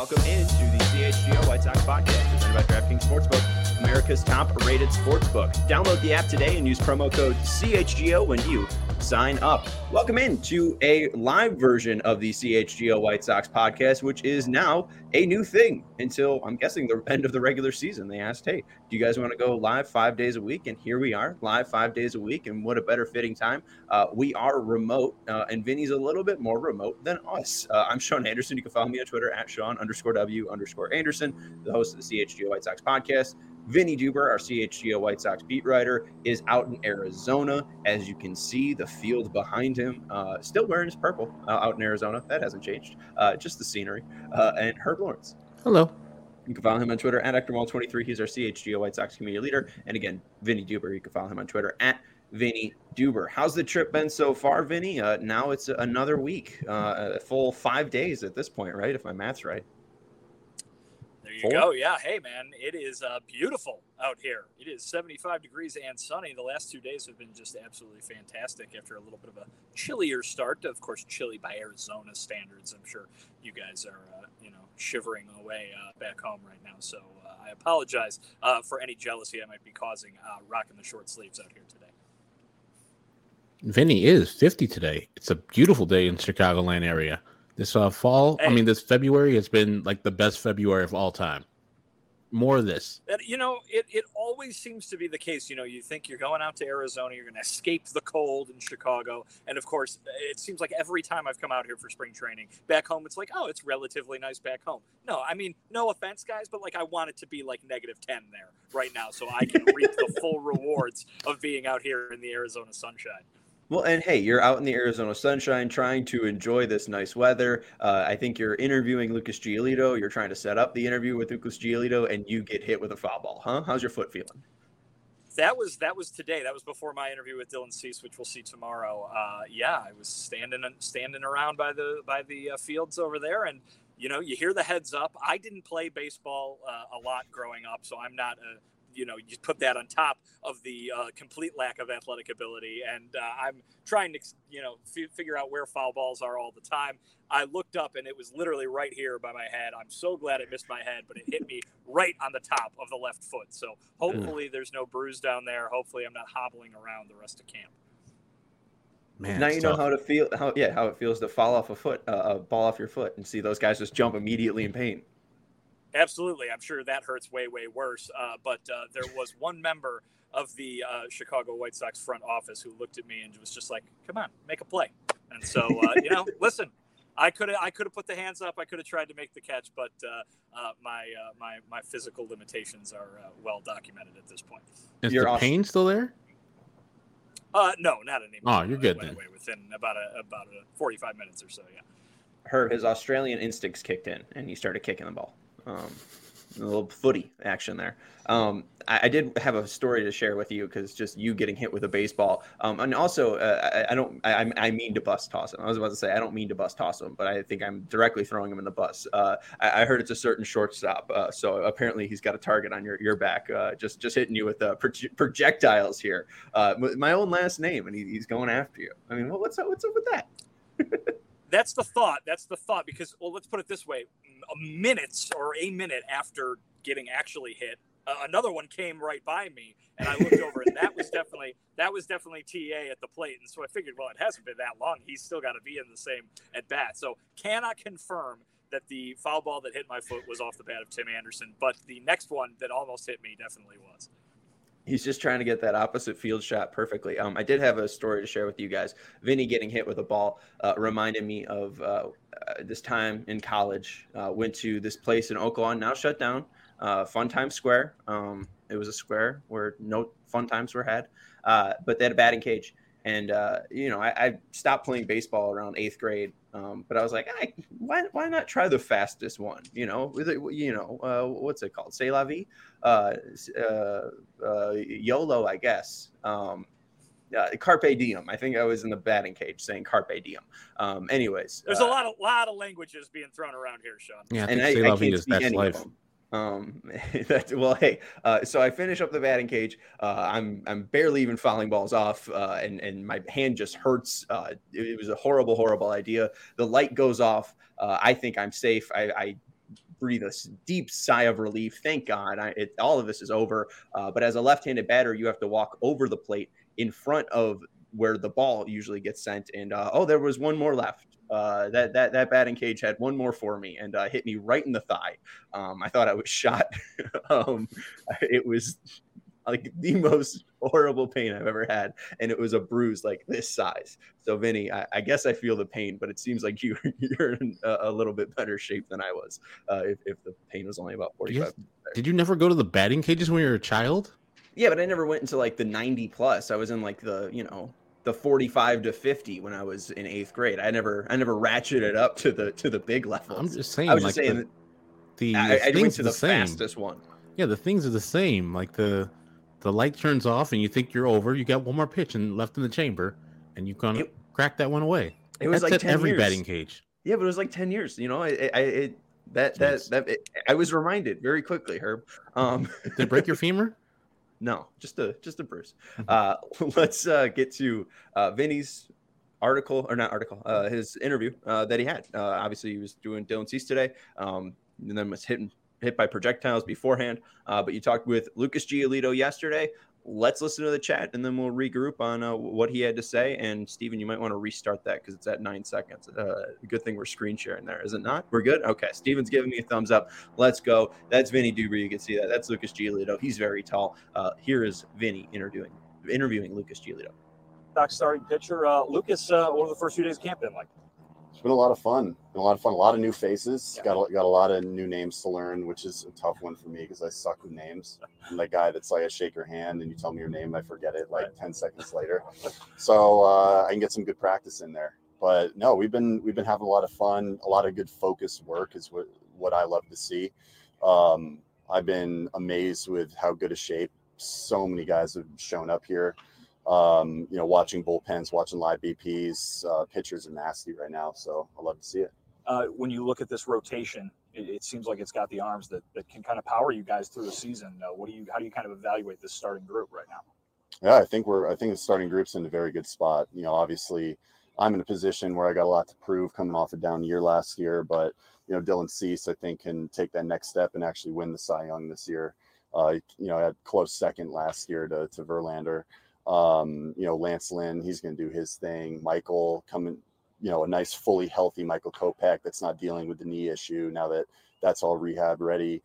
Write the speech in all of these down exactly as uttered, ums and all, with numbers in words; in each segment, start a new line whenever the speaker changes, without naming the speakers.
welcome into the C H G O White Sox podcast presented by DraftKings Sportsbook, America's top-rated sportsbook. Download the app today and use promo code C H G O when you sign up. Welcome into a live version of the C H G O White Sox podcast, which is now a new thing until, I'm guessing, the end of the regular season. They asked, hey, do you guys want to go live five days a week? And here we are, live five days a week. And what a better fitting time. Uh, we are remote, uh, and Vinny's a little bit more remote than us. Uh, I'm Sean Anderson. You can follow me on Twitter at Sean underscore W underscore Anderson, the host of the C H G O White Sox podcast. Vinny Duber, our C H G O White Sox beat writer, is out in Arizona. As you can see, the field behind him, uh, still wearing his purple uh, out in Arizona. That hasn't changed. Uh, just the scenery. Uh, and Herb Lawrence.
Hello.
You can follow him on Twitter at Hector Wall twenty-three. He's our C H G O White Sox community leader. And again, Vinny Duber. You can follow him on Twitter at Vinny Duber. How's the trip been so far, Vinny? Uh, now it's another week, uh, a full five days at this point, right? If my math's right.
There you go. Yeah. Hey, man, it is uh, beautiful out here. It is seventy-five degrees and sunny. The last two days have been just absolutely fantastic after a little bit of a chillier start. Of course, chilly by Arizona standards. I'm sure you guys are, uh, you know, shivering away uh, back home right now. So uh, I apologize uh, for any jealousy I might be causing uh, rocking the short sleeves out here today.
Vinny is fifty today. It's a beautiful day in Chicagoland area. This uh, fall, hey. I mean, this February has been like the best February of all time. More of this.
You know, it, it always seems to be the case. You know, you think you're going out to Arizona, you're going to escape the cold in Chicago. And, of course, it seems like every time I've come out here for spring training, back home, it's like, oh, it's relatively nice back home. No, I mean, no offense, guys, but, like, I want it to be, like, negative ten there right now so I can reap the full rewards of being out here in the Arizona sunshine.
Well, and hey, you're out in the Arizona sunshine trying to enjoy this nice weather. Uh, I think you're interviewing Lucas Giolito. You're trying to set up the interview with Lucas Giolito, and you get hit with a foul ball, huh? How's your foot feeling?
That was that was today. That was before my interview with Dylan Cease, which we'll see tomorrow. Uh, yeah, I was standing standing around by the by the uh, fields over there, and you know, you hear the heads up. I didn't play baseball uh, a lot growing up, so I'm not a you know, you put that on top of the uh, complete lack of athletic ability. And uh, I'm trying to, you know, f- figure out where foul balls are all the time. I looked up and it was literally right here by my head. I'm so glad it missed my head, but it hit me right on the top of the left foot. So hopefully there's no bruise down there. Hopefully I'm not hobbling around the rest of camp.
Man, now you know tough. how to feel, how, yeah, how it feels to fall off a foot, uh, a ball off your foot and see those guys just jump immediately in pain.
Absolutely. I'm sure that hurts way, way worse. Uh, but uh, there was one member of the uh, Chicago White Sox front office who looked at me and was just like, come on, make a play. And so, uh, you know, listen, I could have I could have put the hands up. I could have tried to make the catch, but uh, uh, my uh, my my physical limitations are uh, well documented at this point.
Is You're the awesome. pain still there?
Uh, no, not anymore.
Oh, you're good
went
then.
Away within about a, about a forty-five minutes or so, yeah.
Herb, his Australian instincts kicked in, and he started kicking the ball. Um, a little footy action there. Um, I, I did have a story to share with you because just you getting hit with a baseball. Um, and also, uh, I, I don't. I, I mean to bus toss him. I was about to say I don't mean to bus toss him, but I think I'm directly throwing him in the bus. Uh, I, I heard it's a certain shortstop, uh, so apparently he's got a target on your your back. Uh, just just hitting you with uh, proje- projectiles here. Uh, my own last name, and he, he's going after you. I mean, what's up? What's up with that?
That's the thought. That's the thought. Because, well, let's put it this way: a minute or a minute after getting actually hit, uh, another one came right by me, and I looked over, and that was definitely that was definitely T A at the plate. And so I figured, well, it hasn't been that long. He's still got to be in the same at bat. So cannot confirm that the foul ball that hit my foot was off the bat of Tim Anderson, but the next one that almost hit me definitely was.
He's just trying to get that opposite field shot perfectly. Um, I did have a story to share with you guys. Vinny getting hit with a ball uh, reminded me of uh, uh, this time in college. Uh, went to this place in Oaklawn, now shut down, uh, Fun Times Square. Um, it was a square where no fun times were had, uh, but they had a batting cage. And, uh, you know, I, I stopped playing baseball around eighth grade, um, but I was like, I, why why not try the fastest one? You know, with it, you know, uh, what's it called? C'est la vie? Uh, uh, uh, YOLO, I guess. Um, uh, Carpe diem. I think I was in the batting cage saying Carpe diem. Um, anyways.
There's
uh,
a lot of lot of languages being thrown around here, Sean.
Yeah, I
and
think
I,
C'est la
I
vie
can't
is
speak
that's
any
life.
of them. Um, that's well, hey, uh, so I finish up the batting cage. Uh, I'm, I'm barely even fouling balls off. Uh, and, and my hand just hurts. Uh, it, it was a horrible, horrible idea. The light goes off. Uh, I think I'm safe. I, I breathe a deep sigh of relief. Thank God, I, it, all of this is over. Uh, but as a left-handed batter, you have to walk over the plate in front of where the ball usually gets sent. And uh, oh, there was one more left. Uh, that that that batting cage had one more for me and uh, hit me right in the thigh. Um, I thought I was shot. um, it was like the most horrible pain I've ever had, and it was a bruise like this size. So, Vinny, I, I guess I feel the pain, but it seems like you you're in a, a little bit better shape than I was. Uh, if, if the pain was only about forty-five.
Yes. Did you never go to the batting cages when you were a child?
Yeah, but I never went into like the ninety plus. I was in like the you know. the forty-five to fifty when I was in eighth grade. I never, I never ratcheted up to the, to the big levels.
I'm just saying,
I was
like
just saying
the, the
I, I went to the,
the
fastest one.
Yeah. The things are the same. Like the, the light turns off and you think you're over, you got one more pitch and left in the chamber and you kind of crack that one away.
It was
That's
like
at
ten
every
years.
batting cage.
Yeah, but it was like ten years, you know, I, I, it, that, that,
Jeez.
that, it, I was reminded very quickly, Herb. Um,
Did it break your femur?
No, just a, just a bruise. Uh, let's uh, get to uh, Vinny's article or not article, uh, his interview uh, that he had. Uh, obviously, he was doing Dylan Cease today, um, and then was hit hit by projectiles beforehand. Uh, but you talked with Lucas Giolito yesterday. Let's listen to the chat, and then we'll regroup on uh, what he had to say. And Steven, you might want to restart that because it's at nine seconds. Uh, good thing we're screen sharing there, is it not? We're good. Okay, Steven's giving me a thumbs up. Let's go. That's Vinny Duber. You can see that. That's Lucas Giolito. He's very tall. Uh, here is Vinny interviewing interviewing Lucas Giolito.
Doc, starting pitcher. Uh, Lucas, uh, what were the first few days of camp been like?
It's been a lot of fun. Been a lot of fun. A lot of new faces.
Yeah.
Got a, got a lot of new names to learn, which is a tough one for me because I suck with names. I'm that guy that's like, I shake your hand and you tell me your name, and I forget it like right. ten seconds later. So uh, I can get some good practice in there. But no, we've been we've been having a lot of fun. A lot of good focused work is what what I love to see. Um, I've been amazed with how good a shape so many guys have shown up here. Um, you know, watching bullpens, watching live B Ps, uh, pitchers are nasty right now. So I love to see it.
Uh, when you look at this rotation, it, it seems like it's got the arms that, that can kind of power you guys through the season. Uh, what do you, how do you kind of evaluate this starting group right now?
Yeah, I think we're, I think the starting group's in a very good spot. You know, obviously I'm in a position where I got a lot to prove coming off a down year last year, but you know, Dylan Cease, I think, can take that next step and actually win the Cy Young this year. Uh, you know, I had close second last year to, to Verlander. Um, you know, Lance Lynn, he's going to do his thing. Michael coming, you know, a nice, fully healthy Michael Kopech that's not dealing with the knee issue now that that's all rehab ready.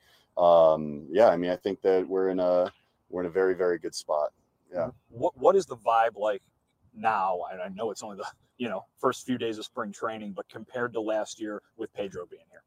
Um, yeah, I mean, I think that we're in a we're in a very, very good spot. Yeah.
What What is the vibe like now? I, I know it's only the you know first few days of spring training, but compared to last year with Pedro being here,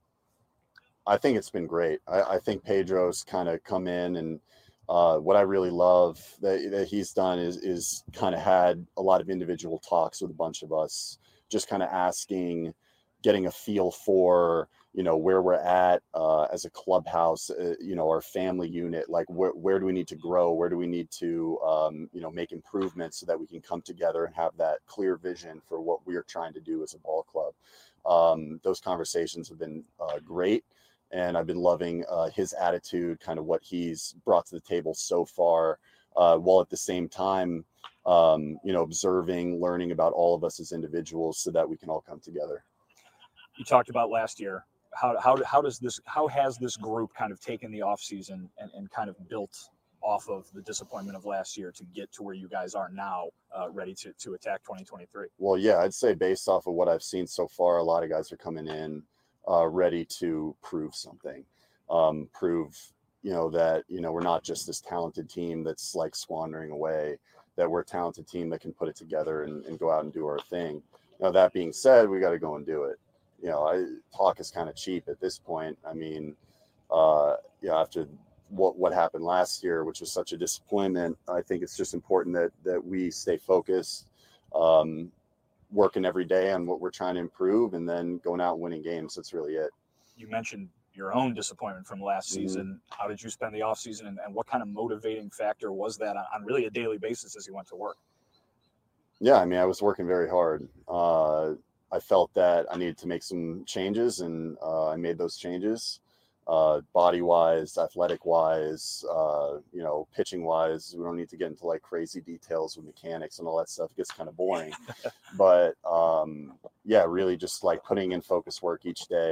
I think it's been great. I, I think Pedro's kind of come in and. Uh, what I really love that, that he's done is is kind of had a lot of individual talks with a bunch of us, just kind of asking, getting a feel for, you know, where we're at uh, as a clubhouse, uh, you know, our family unit, like where, where do we need to grow? Where do we need to, um, you know, make improvements so that we can come together and have that clear vision for what we're trying to do as a ball club. Um, those conversations have been uh, great. And I've been loving uh, his attitude, kind of what he's brought to the table so far, uh, while at the same time, um, you know, observing, learning about all of us as individuals so that we can all come together.
You talked about last year. How how how does this how has this group kind of taken the offseason and, and kind of built off of the disappointment of last year to get to where you guys are now, uh, ready to to attack twenty twenty-three?
Well, yeah, I'd say based off of what I've seen so far, a lot of guys are coming in. Uh, ready to prove something, um, prove, you know, that, you know, we're not just this talented team that's like squandering away, that we're a talented team that can put it together and, and go out and do our thing. Now, that being said, we got to go and do it. You know, I, talk is kind of cheap at this point. I mean, uh, you know, after what, what happened last year, which was such a disappointment, I think it's just important that, that we stay focused, um, working every day on what we're trying to improve and then going out and winning games. That's really it.
You mentioned your own disappointment from last
Mm-hmm.
season. How did you spend the offseason and, and what kind of motivating factor was that on, on really a daily basis as you went to work?
Yeah, I mean, I was working very hard. Uh, I felt that I needed to make some changes and uh, I made those changes. Uh, body-wise, athletic-wise, uh, you know, pitching-wise. We don't need to get into like crazy details with mechanics and all that stuff. It gets kind of boring. But um, yeah, really just like putting in focus work each day,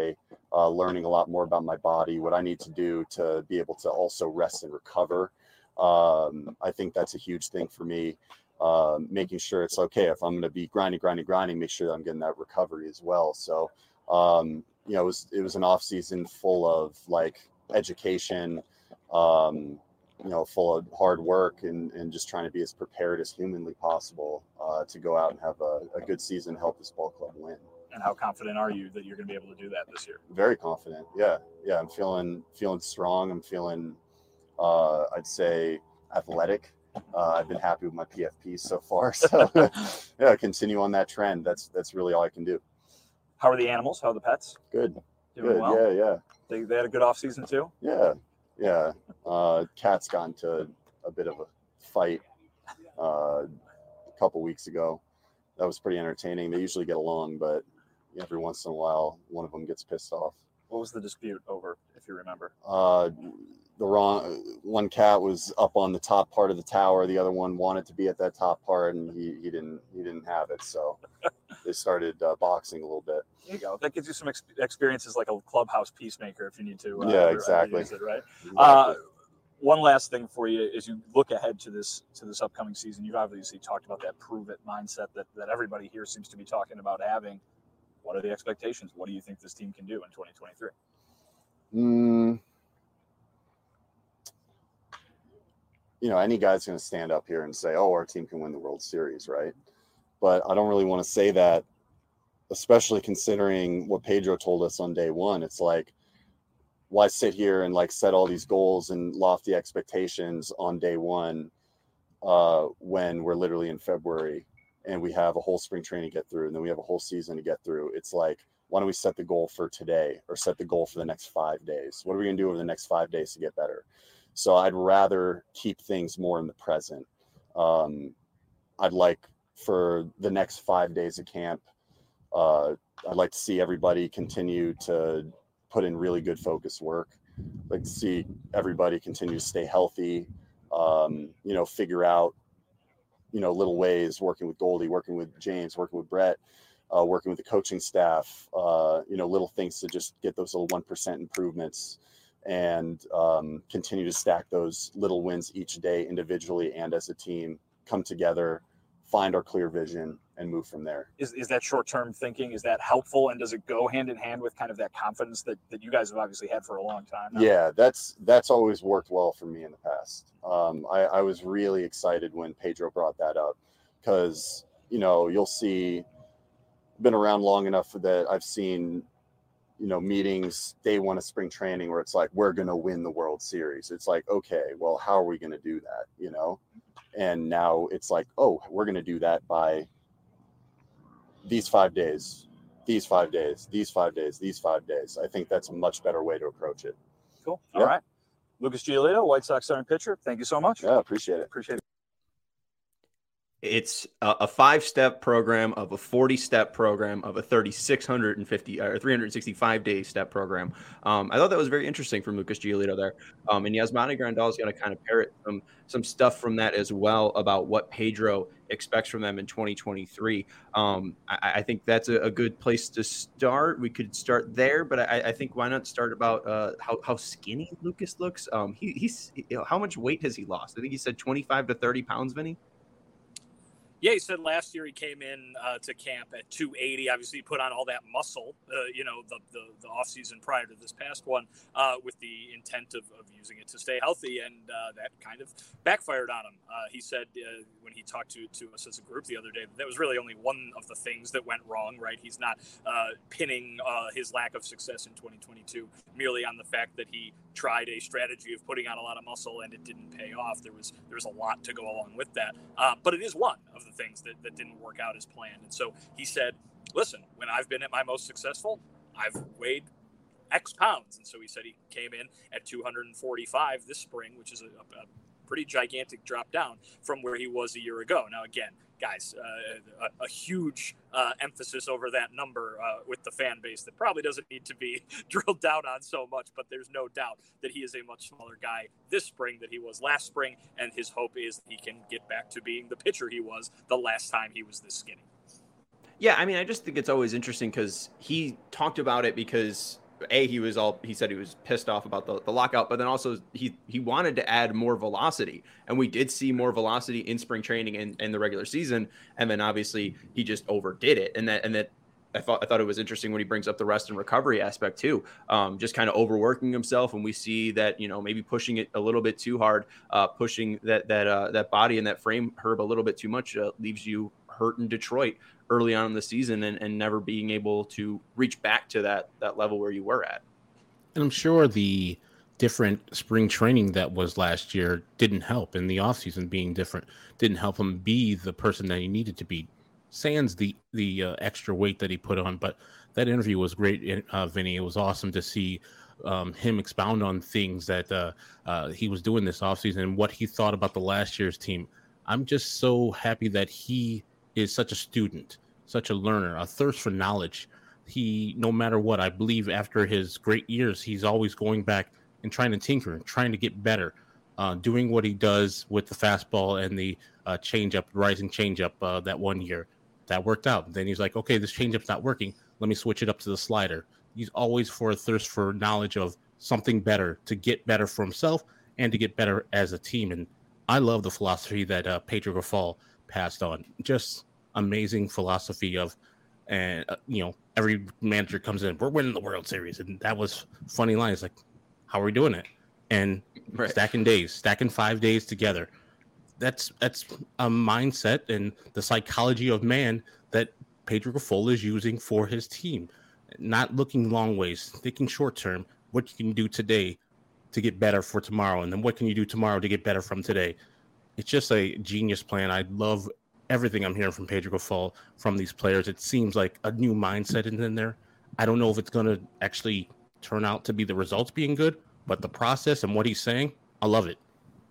uh, learning a lot more about my body, what I need to do to be able to also rest and recover. Um, I think that's a huge thing for me. Uh, making sure it's okay if I'm going to be grinding, grinding, grinding, make sure that I'm getting that recovery as well. So, um, you know, it was, it was an off season full of like education, um, you know, full of hard work and, and just trying to be as prepared as humanly possible uh, to go out and have a, a good season, help this ball club win.
And how confident are you that you're going to be able to do that this year?
Very confident. Yeah. Yeah. I'm feeling, feeling strong. I'm feeling, uh, I'd say athletic. Uh, I've been happy with my P F P so far. So yeah, continue on that trend. That's, that's really all I can do.
How are the animals? How are the pets?
Good.
Doing
Good.
well?
Yeah. Yeah.
They, they had a good off season too?
Yeah. Yeah. Uh, Cat's got into a bit of a fight uh, a couple weeks ago. That was pretty entertaining. They usually get along, but every once in a while, one of them gets pissed off.
What was the dispute over, if you remember?
Uh, the wrong one cat was up on the top part of the tower. The other one wanted to be at that top part, and he, he didn't he didn't have it. So they started uh, boxing a little bit.
There you go. That gives you some ex- experiences like a clubhouse peacemaker if you need to. Uh,
Yeah, exactly.
Use it, right.
Exactly.
Uh, one last thing for you as you look ahead to this to this upcoming season. You've obviously talked about that prove it mindset that that everybody here seems to be talking about having. What are the expectations? What do you think this team can do in twenty twenty-three?
Mm, you know, any guy's going to stand up here and say, oh, our team can win the World Series, right? But I don't really want to say that, especially considering what Pedro told us on day one. It's like, why sit here and like set all these goals and lofty expectations on day one uh, when we're literally in February and we have a whole spring training to get through and then we have a whole season to get through? It's like, why don't we set the goal for today or set the goal for the next five days? What are we going to do over the next five days to get better? So I'd rather keep things more in the present. Um, I'd like for the next five days of camp, uh, I'd like to see everybody continue to put in really good focused work. I'd like to see everybody continue to stay healthy, um, you know, figure out, you know, little ways, working with Goldie, working with James, working with Brett, uh, working with the coaching staff, uh, you know, little things to just get those little one percent improvements and um, continue to stack those little wins each day individually and as a team, come together, find our clear vision and move from there.
Is is that short-term thinking, is that helpful? And does it go hand in hand with kind of that confidence that, that you guys have obviously had for a long time now?
Yeah, that's that's always worked well for me in the past. Um, I, I was really excited when Pedro brought that up because, you know, you'll see, been around long enough that I've seen, you know, meetings day one of spring training where it's like, we're going to win the World Series. It's like, okay, well, how are we going to do that? You know? And now it's like, oh, we're going to do that by these five days, these five days, these five days, these five days. I think that's a much better way to approach it.
Cool.
Yeah.
All right. Lucas Giolito, White Sox starting pitcher. Thank you so much.
Yeah, appreciate it.
Appreciate it.
It's a, a five-step program of a forty-step program of a three thousand six hundred fifty or three hundred sixty-five day step program. Um, I thought that was very interesting from Lucas Giolito there. Um, and Yasmani Grandal is going to kind of parrot some some stuff from that as well about what Pedro expects from them in twenty twenty-three. Um, I, I think that's a, a good place to start. We could start there, but I, I think why not start about uh, how, how skinny Lucas looks? Um, he, he's you know, how much weight has he lost? I think he said twenty-five to thirty pounds, Vinny.
Yeah, he said last year he came in uh, to camp at two eighty. Obviously, he put on all that muscle, uh, you know, the, the the off season prior to this past one, uh, with the intent of, of using it to stay healthy, and uh, that kind of backfired on him. Uh, he said uh, when he talked to, to us as a group the other day, that was really only one of the things that went wrong. Right? He's not uh, pinning uh, his lack of success in twenty twenty-two merely on the fact that he tried a strategy of putting on a lot of muscle and it didn't pay off. There was there was a lot to go along with that, uh, but it is one of the things that, that didn't work out as planned. And so he said, listen, when I've been at my most successful, I've weighed X pounds. And so he said he came in at two hundred forty-five this spring, which is a, a pretty gigantic drop down from where he was a year ago. Now, again, guys, uh, a, a huge uh, emphasis over that number uh, with the fan base that probably doesn't need to be drilled down on so much, but there's no doubt that he is a much smaller guy this spring than he was last spring, and his hope is that he can get back to being the pitcher he was the last time he was this skinny.
Yeah, I mean, I just think it's always interesting because he talked about it because A, he was all, he said he was pissed off about the, the lockout, but then also he, he wanted to add more velocity. And we did see more velocity in spring training and, and the regular season. And then obviously he just overdid it. And that, and that I thought, I thought it was interesting when he brings up the rest and recovery aspect too, um, just kind of overworking himself. And we see that, you know, maybe pushing it a little bit too hard, uh, pushing that, that, uh, that body and that frame, Herb, a little bit too much, uh, leaves you hurt in Detroit early on in the season and, and never being able to reach back to that that level where you were at.
And I'm sure the different spring training that was last year didn't help, and the offseason being different didn't help him be the person that he needed to be. Sans the the uh, extra weight that he put on, but that interview was great, uh, Vinny. It was awesome to see um, him expound on things that uh, uh, he was doing this offseason and what he thought about the last year's team. I'm just so happy that he is such a student, such a learner, a thirst for knowledge. He, no matter what, I believe after his great years, he's always going back and trying to tinker and trying to get better, uh, doing what he does with the fastball and the uh, changeup, rising changeup uh, that one year. That worked out. Then he's like, okay, this changeup's not working. Let me switch it up to the slider. He's always for a thirst for knowledge of something better to get better for himself and to get better as a team. And I love the philosophy that uh, Pedro Grifol passed on. Just amazing philosophy of, and uh, you know, every manager comes in, we're winning the World Series, and that was funny lines like, how are we doing it? And right. stacking days, stacking five days together. That's that's a mindset and the psychology of man that Pedro Grifol is using for his team. Not looking long ways, thinking short term. What you can do today to get better for tomorrow, and then what can you do tomorrow to get better from today? It's just a genius plan. I love everything I'm hearing from Pedro Grifol from these players. It seems like a new mindset in there. I don't know if it's going to actually turn out to be the results being good, but the process and what he's saying, I love it.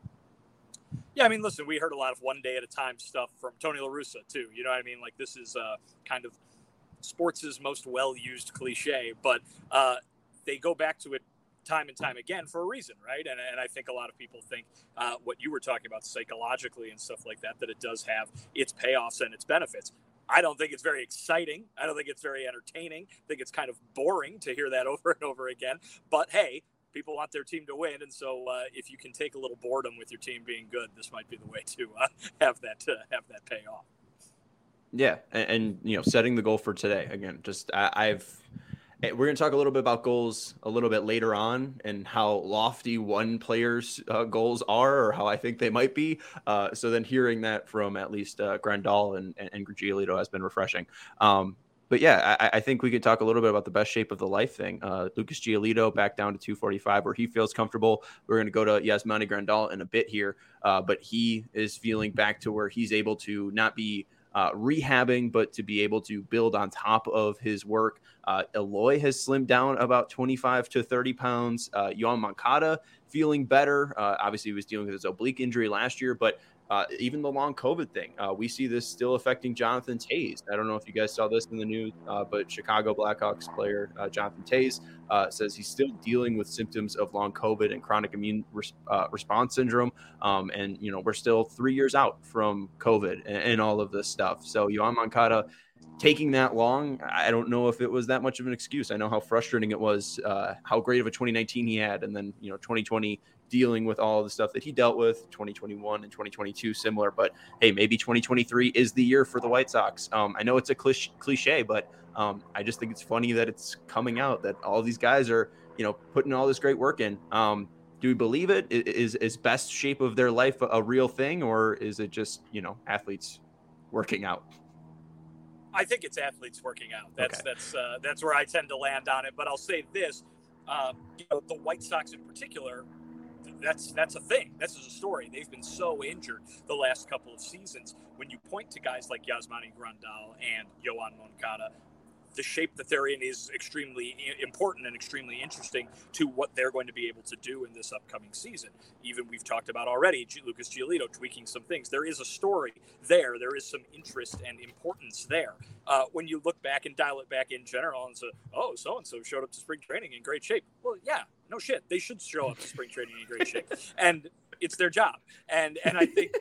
Yeah, I mean, listen, we heard a lot of one day at a time stuff from Tony La Russa, too. You know what I mean? Like, this is uh, kind of sports' most well-used cliche, but uh, they go back to it time and time again for a reason, right? And, and I think a lot of people think uh, what you were talking about psychologically and stuff like that, that it does have its payoffs and its benefits. I don't think it's very exciting. I don't think it's very entertaining. I think it's kind of boring to hear that over and over again. But, hey, people want their team to win, and so uh, if you can take a little boredom with your team being good, this might be the way to uh, have that uh, have that pay off.
Yeah, and, and you know, setting the goal for today again. Just I, I've we're going to talk a little bit about goals a little bit later on, and how lofty one player's uh, goals are, or how I think they might be. Uh, so then hearing that from at least uh, Grandal and and, and Giolito has been refreshing. Um, But yeah, I, I think we could talk a little bit about the best shape of the life thing. Uh, Lucas Giolito back down to two forty-five where he feels comfortable. We're going to go to Yasmani Grandal in a bit here, uh, but he is feeling back to where he's able to not be uh, rehabbing, but to be able to build on top of his work. Uh, Eloy has slimmed down about twenty-five to thirty pounds. Uh, Yoan Moncada feeling better. Uh, obviously, he was dealing with his oblique injury last year, but Uh, even the long COVID thing, uh, we see this still affecting Jonathan Toews. I don't know if you guys saw this in the news, uh, but Chicago Blackhawks player uh, Jonathan Toews uh, says he's still dealing with symptoms of long COVID and chronic immune res- uh, response syndrome. Um, and, you know, we're still three years out from COVID and, and all of this stuff. So Yoan Moncada taking that long, I don't know if it was that much of an excuse. I know how frustrating it was, uh, how great of a twenty nineteen he had. And then, you know, twenty twenty dealing with all the stuff that he dealt with, twenty twenty-one and twenty twenty-two similar, but hey, maybe twenty twenty-three is the year for the White Sox. Um, I know it's a cliche, but um, I just think it's funny that it's coming out that all these guys are, you know, putting all this great work in. Um, do we believe it? Is, is best shape of their life a, a real thing, or is it just, you know, athletes working out?
I think it's athletes working out. That's, okay. that's, uh, that's where I tend to land on it. But I'll say this, um, you know, the White Sox in particular, That's that's a thing. This is a story. They've been so injured the last couple of seasons. When you point to guys like Yasmani Grandal and Yoan Moncada, the shape that they're in is extremely important and extremely interesting to what they're going to be able to do in this upcoming season. Even we've talked about already, Lucas Giolito tweaking some things. There is a story there. There is some interest and importance there. Uh, when you look back and dial it back in general and say, oh, so-and-so showed up to spring training in great shape. Well, yeah, no shit. They should show up to spring training in great shape. And it's their job. And and I think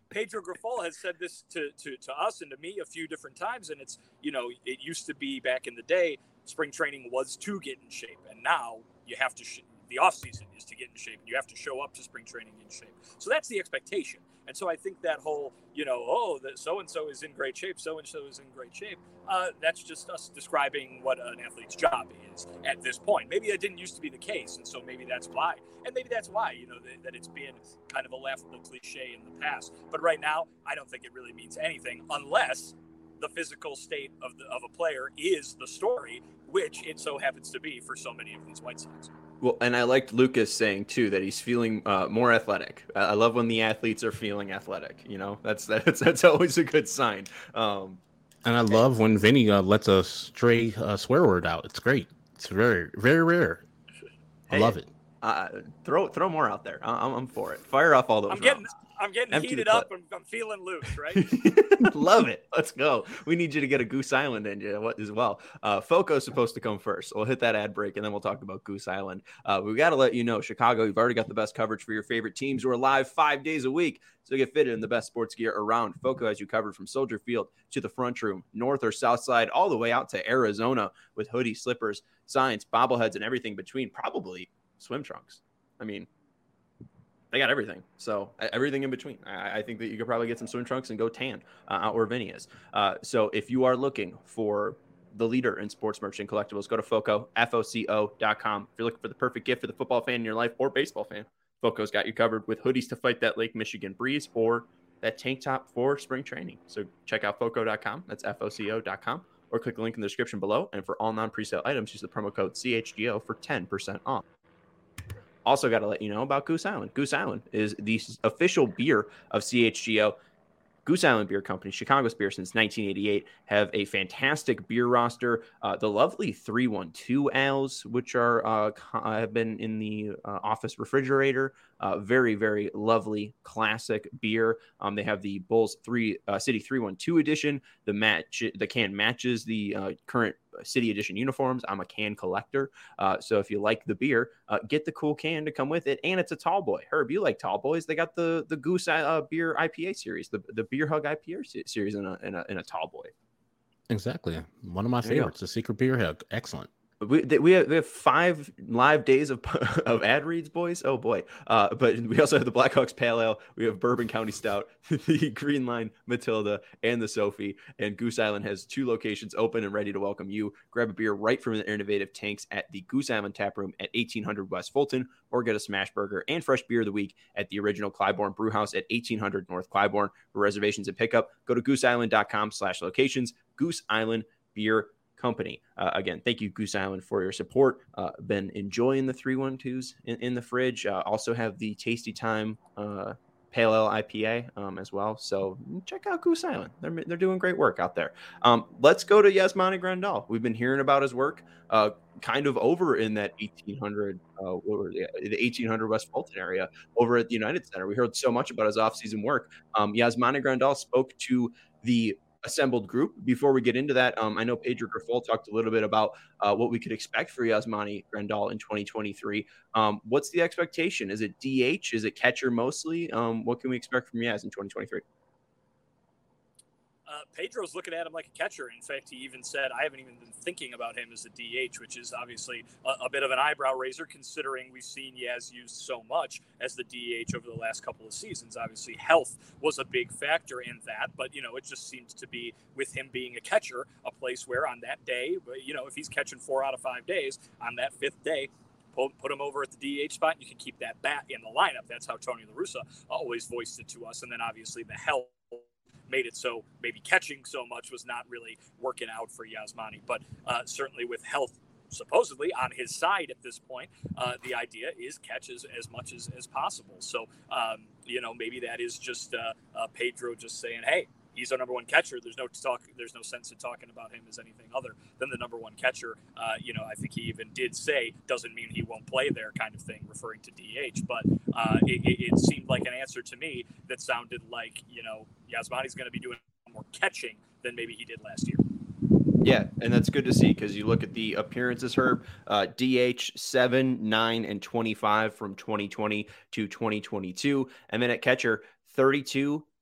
Pedro Grifol has said this to, to, to us and to me a few different times. And it's, you know, it used to be back in the day, spring training was to get in shape. And now you have to, sh- the off season is to get in shape. You have to show up to spring training in shape. So that's the expectation. And so I think that whole, you know, oh, that so-and-so is in great shape, so-and-so is in great shape, uh, that's just us describing what an athlete's job is at this point. Maybe that didn't used to be the case, and so maybe that's why. And maybe that's why, you know, that, that it's been kind of a laughable cliche in the past. But right now, I don't think it really means anything unless the physical state of, the, of a player is the story, which it so happens to be for so many of these White Sox.
Well, and I liked Lucas saying too that he's feeling uh, more athletic. I love when the athletes are feeling athletic. You know, that's that's that's always a good sign. Um,
and I love when Vinny uh, lets a stray uh, swear word out. It's great. It's very very rare. I hey, love it.
Uh, throw throw more out there. I'm, I'm for it. Fire off all those.
I'm getting
rounds.
I'm getting Empty heated up and I'm feeling loose, right?
Love it. Let's go. We need you to get a Goose Island in you as well. Uh, Foco's supposed to come first. We'll hit that ad break and then we'll talk about Goose Island. Uh, we got to let you know, Chicago, you've already got the best coverage for your favorite teams. We're live five days a week, so get fitted in the best sports gear around. Foco has you covered from Soldier Field to the Front Room, north or south side, all the way out to Arizona with hoodies, slippers, signs, bobbleheads, and everything between, probably swim trunks. I mean, they got everything. So everything in between. I, I think that you could probably get some swim trunks and go tan uh, out where Vinny is. Uh, so if you are looking for the leader in sports merch and collectibles, go to Foco, F O C O dot com. If you're looking for the perfect gift for the football fan in your life or baseball fan, Foco's got you covered with hoodies to fight that Lake Michigan breeze or that tank top for spring training. So check out Foco dot com. That's F O C O dot com. Or click the link in the description below. And for all non-presale items, use the promo code C H G O for ten percent off. Also got to let you know about Goose Island. Goose Island is the official beer of C H G O. Goose Island Beer Company, Chicago's beer since nineteen eighty-eight, have a fantastic beer roster. Uh, the lovely three one two ales, which are uh, have been in the uh, office refrigerator. Uh, very, very lovely classic beer. Um, they have the Bulls three uh, City three one two edition. The match, the can matches the uh, current City Edition uniforms. I'm a can collector. Uh, so if you like the beer, uh, get the cool can to come with it. And it's a tall boy. Herb, you like tall boys. They got the the Goose uh, Beer I P A series, the, the Beer Hug I P A series in a, in a, in a tall boy.
Exactly. One of my there favorites, the Secret Beer Hug. Excellent.
We we have, we have five live days of of ad reads, boys. Oh boy! Uh, but we also have the Blackhawks Pale Ale. We have Bourbon County Stout, the Green Line Matilda, and the Sophie. And Goose Island has two locations open and ready to welcome you. Grab a beer right from the innovative tanks at the Goose Island Tap Room at eighteen hundred West Fulton, or get a smash burger and fresh beer of the week at the original Clybourne Brew House at eighteen hundred North Clybourne. For reservations and pickup, go to goose island dot com slash locations. Goose Island Beer Company. Uh, again, thank you, Goose Island, for your support. Uh, been enjoying the three one twos in, in the fridge. Uh, also have the Tasty Time uh, Pale Ale I P A um, as well. So check out Goose Island. They're, they're doing great work out there. Um, let's go to Yasmani Grandal. We've been hearing about his work uh, kind of over in that eighteen hundred, uh, or the, the eighteen hundred West Fulton area over at the United Center. We heard so much about his offseason work. Um, Yasmani Grandal spoke to the assembled group. Before we get into that, um, I know Pedro Grifol talked a little bit about uh, what we could expect for Yasmani Grandal in twenty twenty-three. Um, what's the expectation? Is it D H? Is it catcher mostly? Um, what can we expect from Yaz in twenty twenty-three?
Uh, Pedro's looking at him like a catcher. In fact, he even said, I haven't even been thinking about him as a D H, which is obviously a, a bit of an eyebrow raiser considering we've seen Yaz used so much as the D H over the last couple of seasons. Obviously, health was a big factor in that, but, you know, it just seems to be, with him being a catcher, a place where on that day, you know, if he's catching four out of five days, on that fifth day, put him over at the D H spot, and you can keep that bat in the lineup. That's how Tony La Russa always voiced it to us. And then obviously the health made it so maybe catching so much was not really working out for Yasmani. But uh, certainly with health supposedly on his side at this point, uh, the idea is catch as, as much as, as possible. So, um, you know, maybe that is just uh, uh, Pedro just saying, hey, he's our number one catcher. There's no talk. There's no sense in talking about him as anything other than the number one catcher. Uh, you know, I think he even did say doesn't mean he won't play there, kind of thing, referring to D H. But uh, it, it seemed like an answer to me that sounded like, you know, Yasmani's going to be doing more catching than maybe he did last year.
Yeah, and that's good to see because you look at the appearances, Herb, uh, D H seven, nine, and twenty-five from twenty twenty to twenty twenty-two. And then at catcher, thirty-two,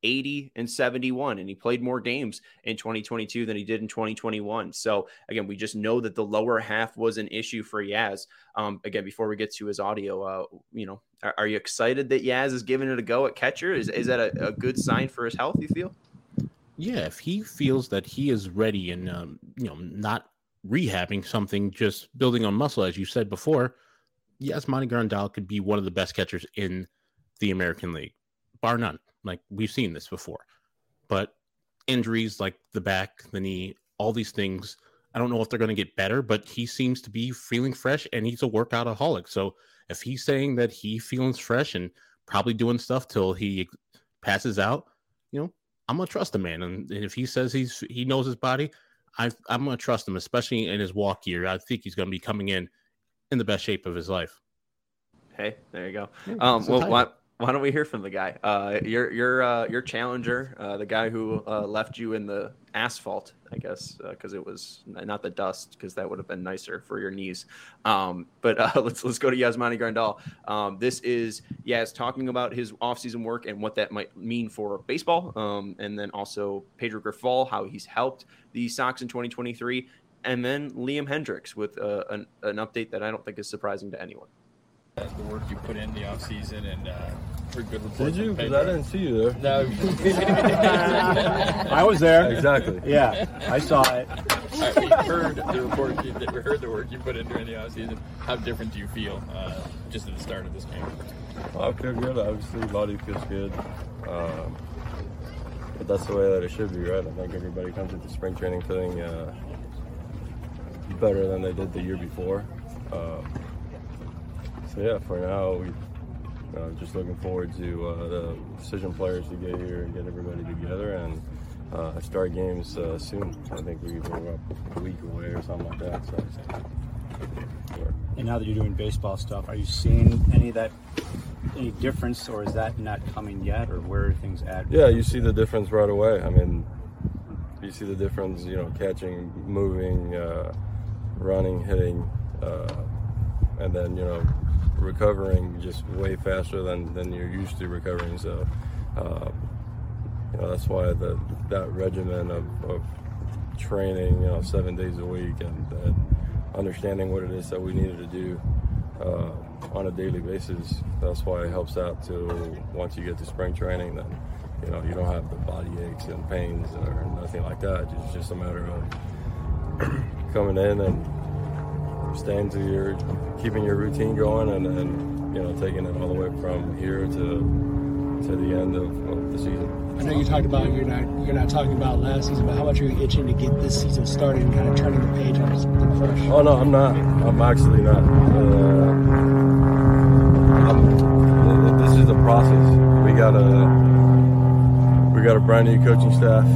eighty and seventy-one, and he played more games in twenty twenty-two than he did in twenty twenty-one. So again, we just know that the lower half was an issue for Yaz. Um, again, before we get to his audio, uh, you know, are, are you excited that Yaz is giving it a go at catcher? Is, is that a, a good sign for his health, you feel?
Yeah, if he feels that he is ready and, um, you know, not rehabbing something, just building on muscle, as you said before, Yasmani Grandal could be one of the best catchers in the American League, bar none. Like, we've seen this before. But injuries like the back, the knee, all these things, I don't know if they're going to get better, but he seems to be feeling fresh, and he's a workoutaholic. So if he's saying that he feels fresh and probably doing stuff till he passes out, you know, I'm going to trust the man. And if he says he's he knows his body, I, I'm going to trust him, especially in his walk year. I think he's going to be coming in in the best shape of his life.
Hey, there you go.
Yeah,
um, well, why, why don't we hear from the guy? Uh, your your uh, your challenger, uh, the guy who uh, left you in the asphalt, I guess, because uh, it was not the dust, because that would have been nicer for your knees. Um, but uh, let's let's go to Yasmani Grandal. Um, this is Yaz talking about his offseason work and what that might mean for baseball, um, and then also Pedro Grifol, how he's helped the Sox in twenty twenty-three, and then Liam Hendriks with uh, an, an update that I don't think is surprising to anyone.
The work you put in the offseason and uh, for good reports.
Did you? Because I didn't see you there.
No.
I was there.
Exactly.
Yeah, I saw it.
All right, we heard the report. You, we heard the work you put in during the offseason. How different do you feel uh, just at the start of this game?
Well, I feel good. Obviously, body feels good. Um, but that's the way that it should be, right? I think everybody comes into spring training feeling uh, better than they did the year before. Um, So yeah, for now, we uh, just looking forward to uh, the decision players to get here and get everybody together and uh, start games uh, soon. I think we we're up a week away or something like that. So, sure.
And now that you're doing baseball stuff, are you seeing any of that, any difference, or is that not coming yet, or where are things at?
Yeah, you see the difference right away. I mean, you see the difference. You know, catching, moving, uh, running, hitting, uh, and then you know. recovering just way faster than, than you're used to recovering. So, uh, you know, that's why the, that regimen of, of training, you know, seven days a week and, and understanding what it is that we needed to do uh, on a daily basis, that's why it helps out to once you get to spring training, then, you know, you don't have the body aches and pains or nothing like that. It's just a matter of coming in and staying to your, keeping your routine going, and, and you know, taking it all the way from here to to the end of, of the season.
I know you talked about you're not you're not talking about last season, but how much are you itching to get this season started and kind of turning the page on something fresh?
Oh no, I'm not. I'm actually not. Uh, I'm, this is the process. We got a we got a brand new coaching staff,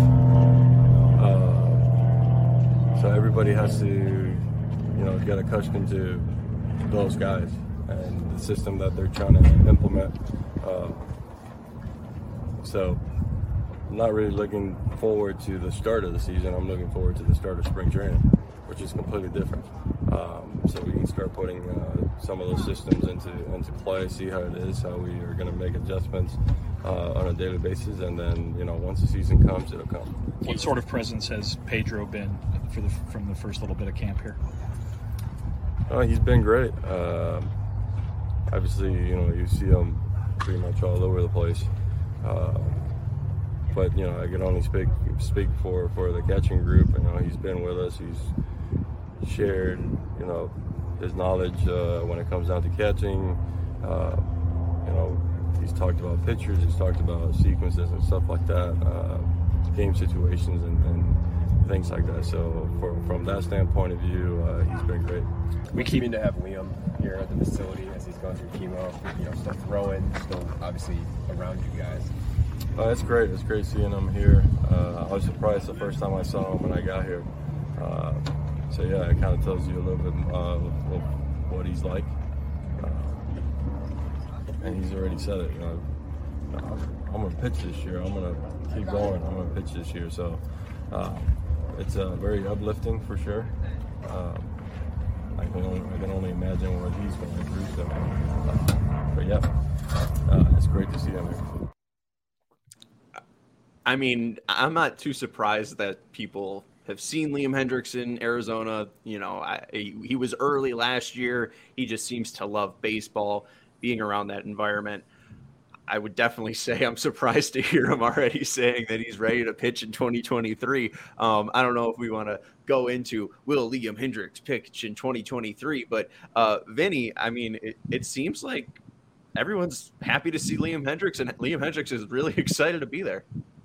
uh, so everybody has to. You know, get accustomed to those guys and the system that they're trying to implement. Um, so, I'm not really looking forward to the start of the season. I'm looking forward to the start of spring training, which is completely different. Um, so we can start putting uh, some of those systems into into play, see how it is, how we are going to make adjustments uh, on a daily basis, and then you know, once the season comes, it'll come.
What sort of presence has Pedro been for the from the first little bit of camp here?
Oh, he's been great. Uh, obviously, you know, you see him pretty much all over the place. Uh, but you know, I can only speak speak for, for the catching group. You know, he's been with us. He's shared, you know, his knowledge uh, when it comes down to catching. Uh, you know, he's talked about pitchers. He's talked about sequences and stuff like that, uh, game situations and. and things like that. So for, from that standpoint of view, uh, he's been great.
We keep to have Liam here at the facility as he's going through chemo, you know, still throwing, still obviously around you guys.
Uh, it's great. It's great seeing him here. Uh, I was surprised the first time I saw him when I got here. Uh, so yeah, it kind of tells you a little bit uh, of, of what he's like. Uh, and he's already said it. You know, I'm going to pitch this year. I'm going to keep going. I'm going to pitch this year. So. Uh, It's uh, very uplifting for sure. Um, I can only I can only imagine what he's going through. So, uh, but yeah, uh, it's great to see him here.
I mean, I'm not too surprised that people have seen Liam Hendriks in Arizona. You know, I, he was early last year. He just seems to love baseball, being around that environment. I would definitely say I'm surprised to hear him already saying that he's ready to pitch in twenty twenty-three. Um, I don't know if we want to go into will Liam Hendriks pitch in twenty twenty-three, but uh, Vinny, I mean, it, it seems like everyone's happy to see Liam Hendriks, and Liam Hendriks is really excited to be there.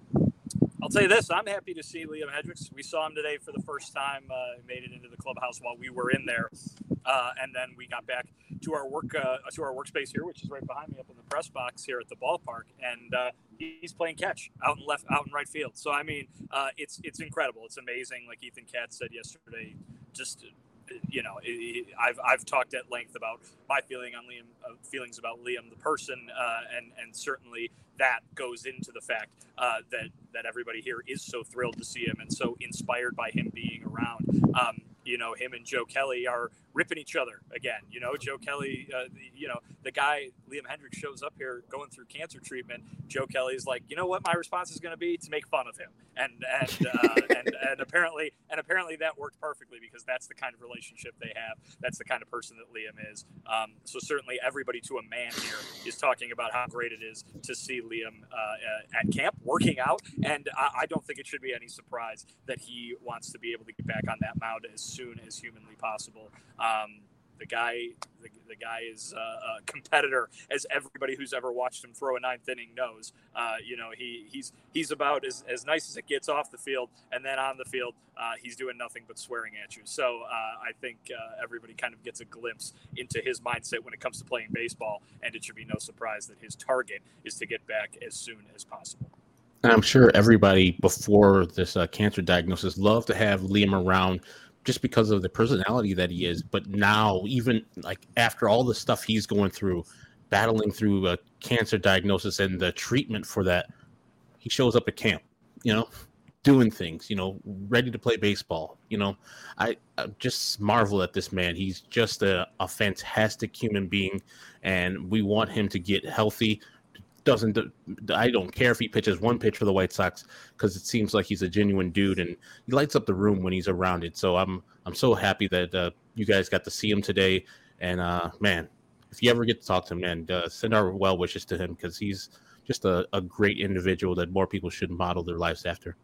I'll tell you this, I'm happy to see Liam Hendriks. We saw him today for the first time, uh, made it into the clubhouse while we were in there. Uh, and then we got back to our work, uh, to our workspace here, which is right behind me up in the press box here at the ballpark. And uh, he's playing catch out in left, out in right field. So, I mean, uh, it's, it's incredible. It's amazing. Like Ethan Katz said yesterday, just, you know, it, it, I've, I've talked at length about my feeling on Liam, uh, feelings about Liam, the person, uh, and, and certainly that goes into the fact uh, that, that everybody here is so thrilled to see him and so inspired by him being around. Um, you know, him and Joe Kelly are ripping each other again. You know, Joe Kelly, uh, you know, the guy, Liam Hendriks, shows up here going through cancer treatment. Joe Kelly's like, you know what my response is going to be? To make fun of him. And and, uh, and and apparently and apparently that worked perfectly because that's the kind of relationship they have. That's the kind of person that Liam is. Um, so certainly everybody to a man here is talking about how great it is to see Liam uh, at camp working out. And I, I don't think it should be any surprise that he wants to be able to get back on that mound as soon as humanly possible. Um, the guy, the, the guy is uh, a competitor, as everybody who's ever watched him throw a ninth inning knows. Uh, you know, he he's he's about as, as nice as it gets off the field, and then on the field, uh, he's doing nothing but swearing at you. So uh, I think uh, everybody kind of gets a glimpse into his mindset when it comes to playing baseball, and it should be no surprise that his target is to get back as soon as possible.
And I'm sure everybody before this uh, cancer diagnosis loved to have Liam around just because of the personality that he is. But now, even like after all the stuff he's going through, battling through a cancer diagnosis and the treatment for that, he shows up at camp, you know, doing things, you know, ready to play baseball. You know, I, I just marvel at this man. He's just a, a fantastic human being, and we want him to get healthy. Doesn't I don't care if he pitches one pitch for the White Sox because it seems like he's a genuine dude and he lights up the room when he's around it. So I'm I'm so happy that uh, you guys got to see him today. And uh, man, if you ever get to talk to him, man, uh, send our well wishes to him because he's just a, a great individual that more people should model their lives after.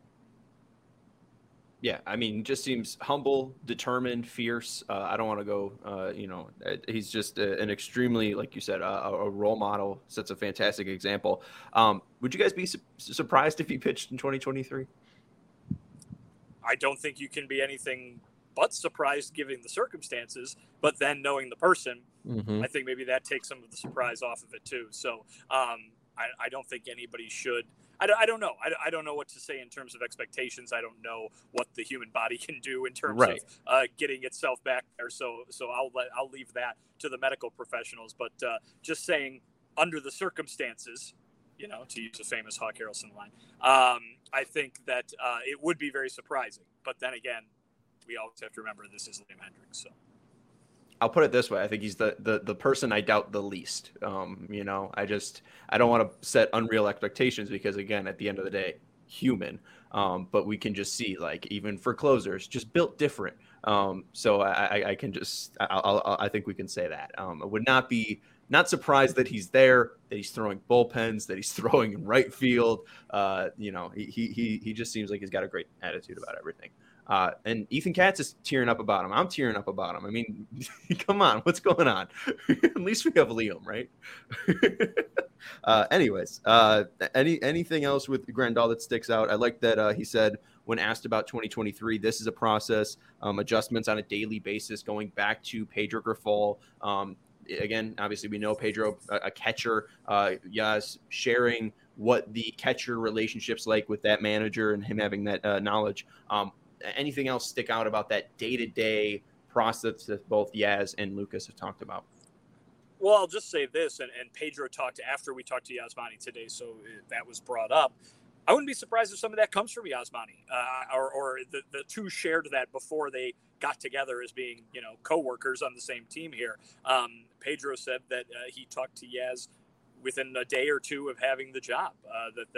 Yeah, I mean, just seems humble, determined, fierce. Uh, I don't want to go, uh, you know, he's just a, an extremely, like you said, a, a role model, sets a fantastic example. Um, would you guys be su- surprised if he pitched in twenty twenty-three?
I don't think you can be anything but surprised given the circumstances, but then knowing the person, mm-hmm. I think maybe that takes some of the surprise off of it too. So um, I, I don't think anybody should. I don't, I don't know. I, I don't know what to say in terms of expectations. I don't know what the human body can do in terms right. of uh, getting itself back there. So so I'll let, I'll leave that to the medical professionals. But uh, just saying, under the circumstances, you know, to use a famous Hawk Harrelson line, um, I think that uh, it would be very surprising. But then again, we always have to remember this is Liam Hendriks. So.
I'll put it this way. I think he's the, the, the person I doubt the least. Um, you know, I just, I don't want to set unreal expectations because, again, at the end of the day, human. Um, but we can just see, like, even for closers, just built different. Um, so I, I, I can just, I'll, I'll, I think we can say that. Um, I would not be, not surprised that he's there, that he's throwing bullpens, that he's throwing in right field. Uh, you know, he, he, he just seems like he's got a great attitude about everything. Uh, and Ethan Katz is tearing up about him. I'm tearing up about him. I mean, come on, what's going on? At least we have Liam, right? uh, anyways, uh, any anything else with Grandal that sticks out? I like that uh, he said when asked about twenty twenty-three, this is a process, um, adjustments on a daily basis, going back to Pedro Grifol. Um, again, obviously we know Pedro, a, a catcher, uh, Yaz sharing what the catcher relationship's like with that manager and him having that uh, knowledge. Um, Anything else stick out about that day-to-day process that both Yaz and Lucas have talked about?
Well, I'll just say this, and, and Pedro talked after we talked to Yasmani today, so that was brought up. I wouldn't be surprised if some of that comes from Yasmani, uh, or, or the, the two shared that before they got together as being, you know, co-workers on the same team here. Um, Pedro said that uh, he talked to Yaz within a day or two of having the job, uh, that, that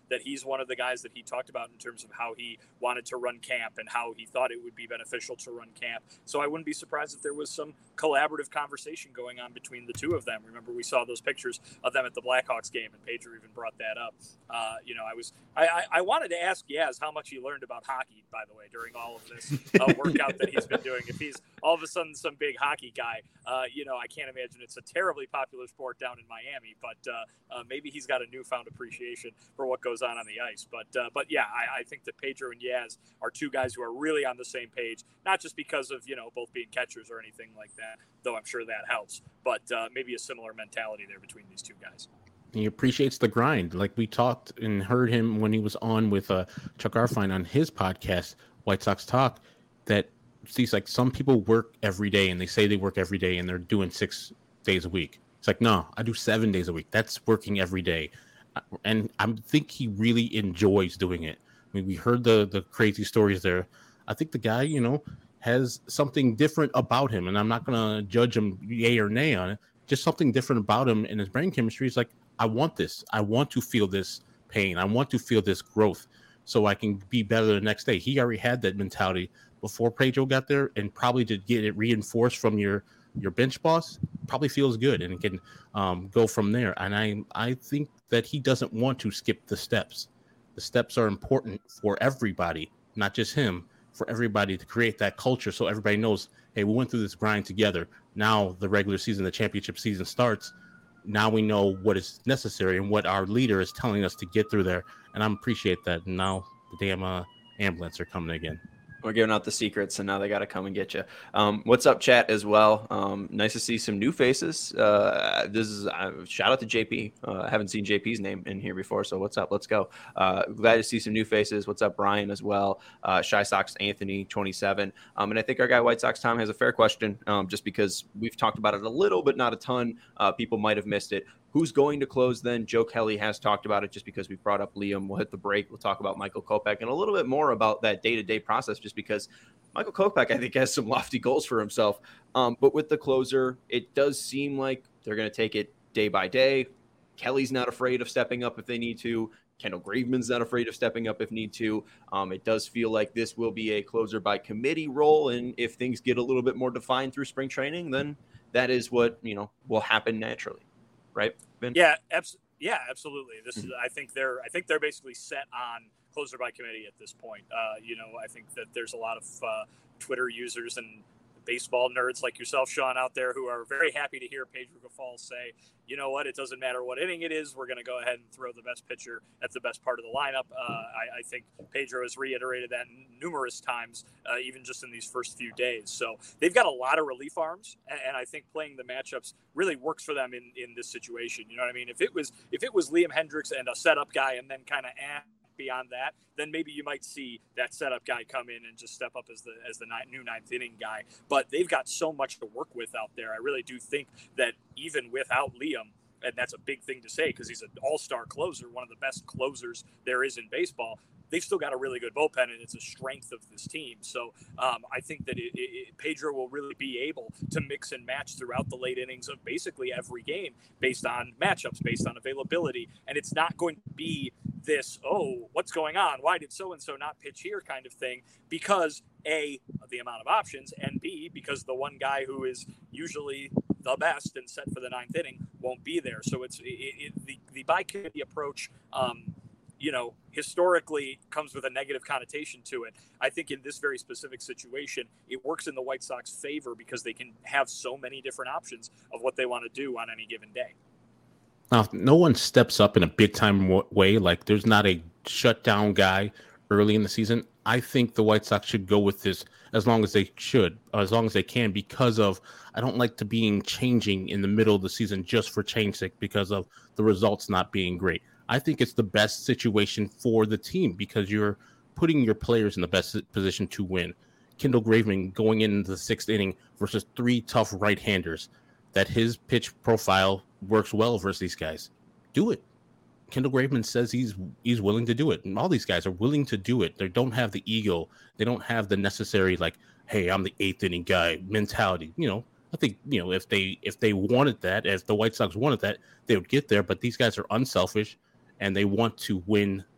that he's one of the guys that he talked about in terms of how he wanted to run camp and how he thought it would be beneficial to run camp. So I wouldn't be surprised if there was some collaborative conversation going on between the two of them. Remember, we saw those pictures of them at the Blackhawks game, and Pedro even brought that up. Uh, you know, I was I, I, I wanted to ask Yaz how much he learned about hockey, by the way, during all of this uh, workout that he's been doing. If he's all of a sudden some big hockey guy, uh, you know, I can't imagine it's a terribly popular sport down in Miami, but uh, uh, maybe he's got a newfound appreciation for what goes on on the ice. But uh, but yeah, I, I think that Pedro and Yaz are two guys who are really on the same page, not just because of, you know, both being catchers or anything like that, though I'm sure that helps, but uh, maybe a similar mentality there between these two guys.
He appreciates the grind. Like we talked and heard him when he was on with uh, Chuck Arfine on his podcast, White Sox Talk, that he's like, some people work every day and they say they work every day and they're doing six days a week. It's like, no, I do seven days a week. That's working every day. And I think he really enjoys doing it. I mean, we heard the the crazy stories there. I think the guy, you know, has something different about him, and I'm not going to judge him yay or nay on it. Just something different about him and his brain chemistry is like, I want this. I want to feel this pain. I want to feel this growth so I can be better the next day. He already had that mentality before Pedro got there, and probably to get it reinforced from your, your bench boss probably feels good and can um, go from there. And I, I think that he doesn't want to skip the steps. The steps are important for everybody, not just him, for everybody to create that culture so everybody knows, hey, we went through this grind together. Now the regular season, the championship season starts. Now we know what is necessary and what our leader is telling us to get through there. And I appreciate that. And now the damn uh, ambulance are coming again.
We're giving out the secrets, and now they got to come and get you. Um, what's up, chat, as well? Um, nice to see some new faces. Uh, this is uh, shout out to J P. Uh, I haven't seen J P's name in here before, so what's up? Let's go. Uh, glad to see some new faces. What's up, Brian, as well? Uh, Shy Sox Anthony, twenty-seven. Um, and I think our guy White Sox Tom has a fair question, um, just because we've talked about it a little, but not a ton. Uh, people might have missed it. Who's going to close then? Joe Kelly has talked about it just because we brought up Liam. We'll hit the break. We'll talk about Michael Kopech and a little bit more about that day-to-day process just because Michael Kopech, I think, has some lofty goals for himself. Um, but with the closer, it does seem like they're going to take it day by day. Kelly's not afraid of stepping up if they need to. Kendall Graveman's not afraid of stepping up if need to. Um, it does feel like this will be a closer by committee role. And if things get a little bit more defined through spring training, then that is what, you know, will happen naturally. Right, Ben?
Yeah, abs- yeah, absolutely. This is. I think they're. I think they're basically set on closer by committee at this point. Uh, you know, I think that there's a lot of uh, Twitter users and baseball nerds like yourself, Sean, out there who are very happy to hear Pedro Grifol say, you know what, it doesn't matter what inning it is, we're going to go ahead and throw the best pitcher at the best part of the lineup. Uh, I, I think Pedro has reiterated that numerous times, uh, even just in these first few days. So they've got a lot of relief arms, and, and I think playing the matchups really works for them in, in this situation. You know what I mean? If it was if it was Liam Hendriks and a setup guy and then kind of eh, beyond that, then maybe you might see that setup guy come in and just step up as the as the ni- new ninth inning guy. But they've got so much to work with out there. I really do think that even without Liam, and that's a big thing to say because he's an all-star closer, one of the best closers there is in baseball, they've still got a really good bullpen, and it's a strength of this team. So um, I think that it, it, Pedro will really be able to mix and match throughout the late innings of basically every game based on matchups, based on availability. And it's not going to be this, oh, what's going on? Why did so-and-so not pitch here kind of thing? Because A, the amount of options, and B, because the one guy who is usually the best and set for the ninth inning won't be there. So it's it, it, the, the by-committee approach, um, you know, historically comes with a negative connotation to it. I think in this very specific situation, it works in the White Sox favor because they can have so many different options of what they want to do on any given day.
Now, if no one steps up in a big time way, like there's not a shutdown guy early in the season, I think the White Sox should go with this as long as they should, or as long as they can, because of, I don't like to being changing in the middle of the season just for change sake because of the results not being great. I think it's the best situation for the team because you're putting your players in the best position to win. Kendall Graveman going into the sixth inning versus three tough right-handers, that his pitch profile works well versus these guys. Do it. Kendall Graveman says he's he's willing to do it. And all these guys are willing to do it. They don't have the ego. They don't have the necessary, like, hey, I'm the eighth inning guy mentality. You know, I think, you know, if they if they wanted that, if the White Sox wanted that, they would get there. But these guys are unselfish and they want to win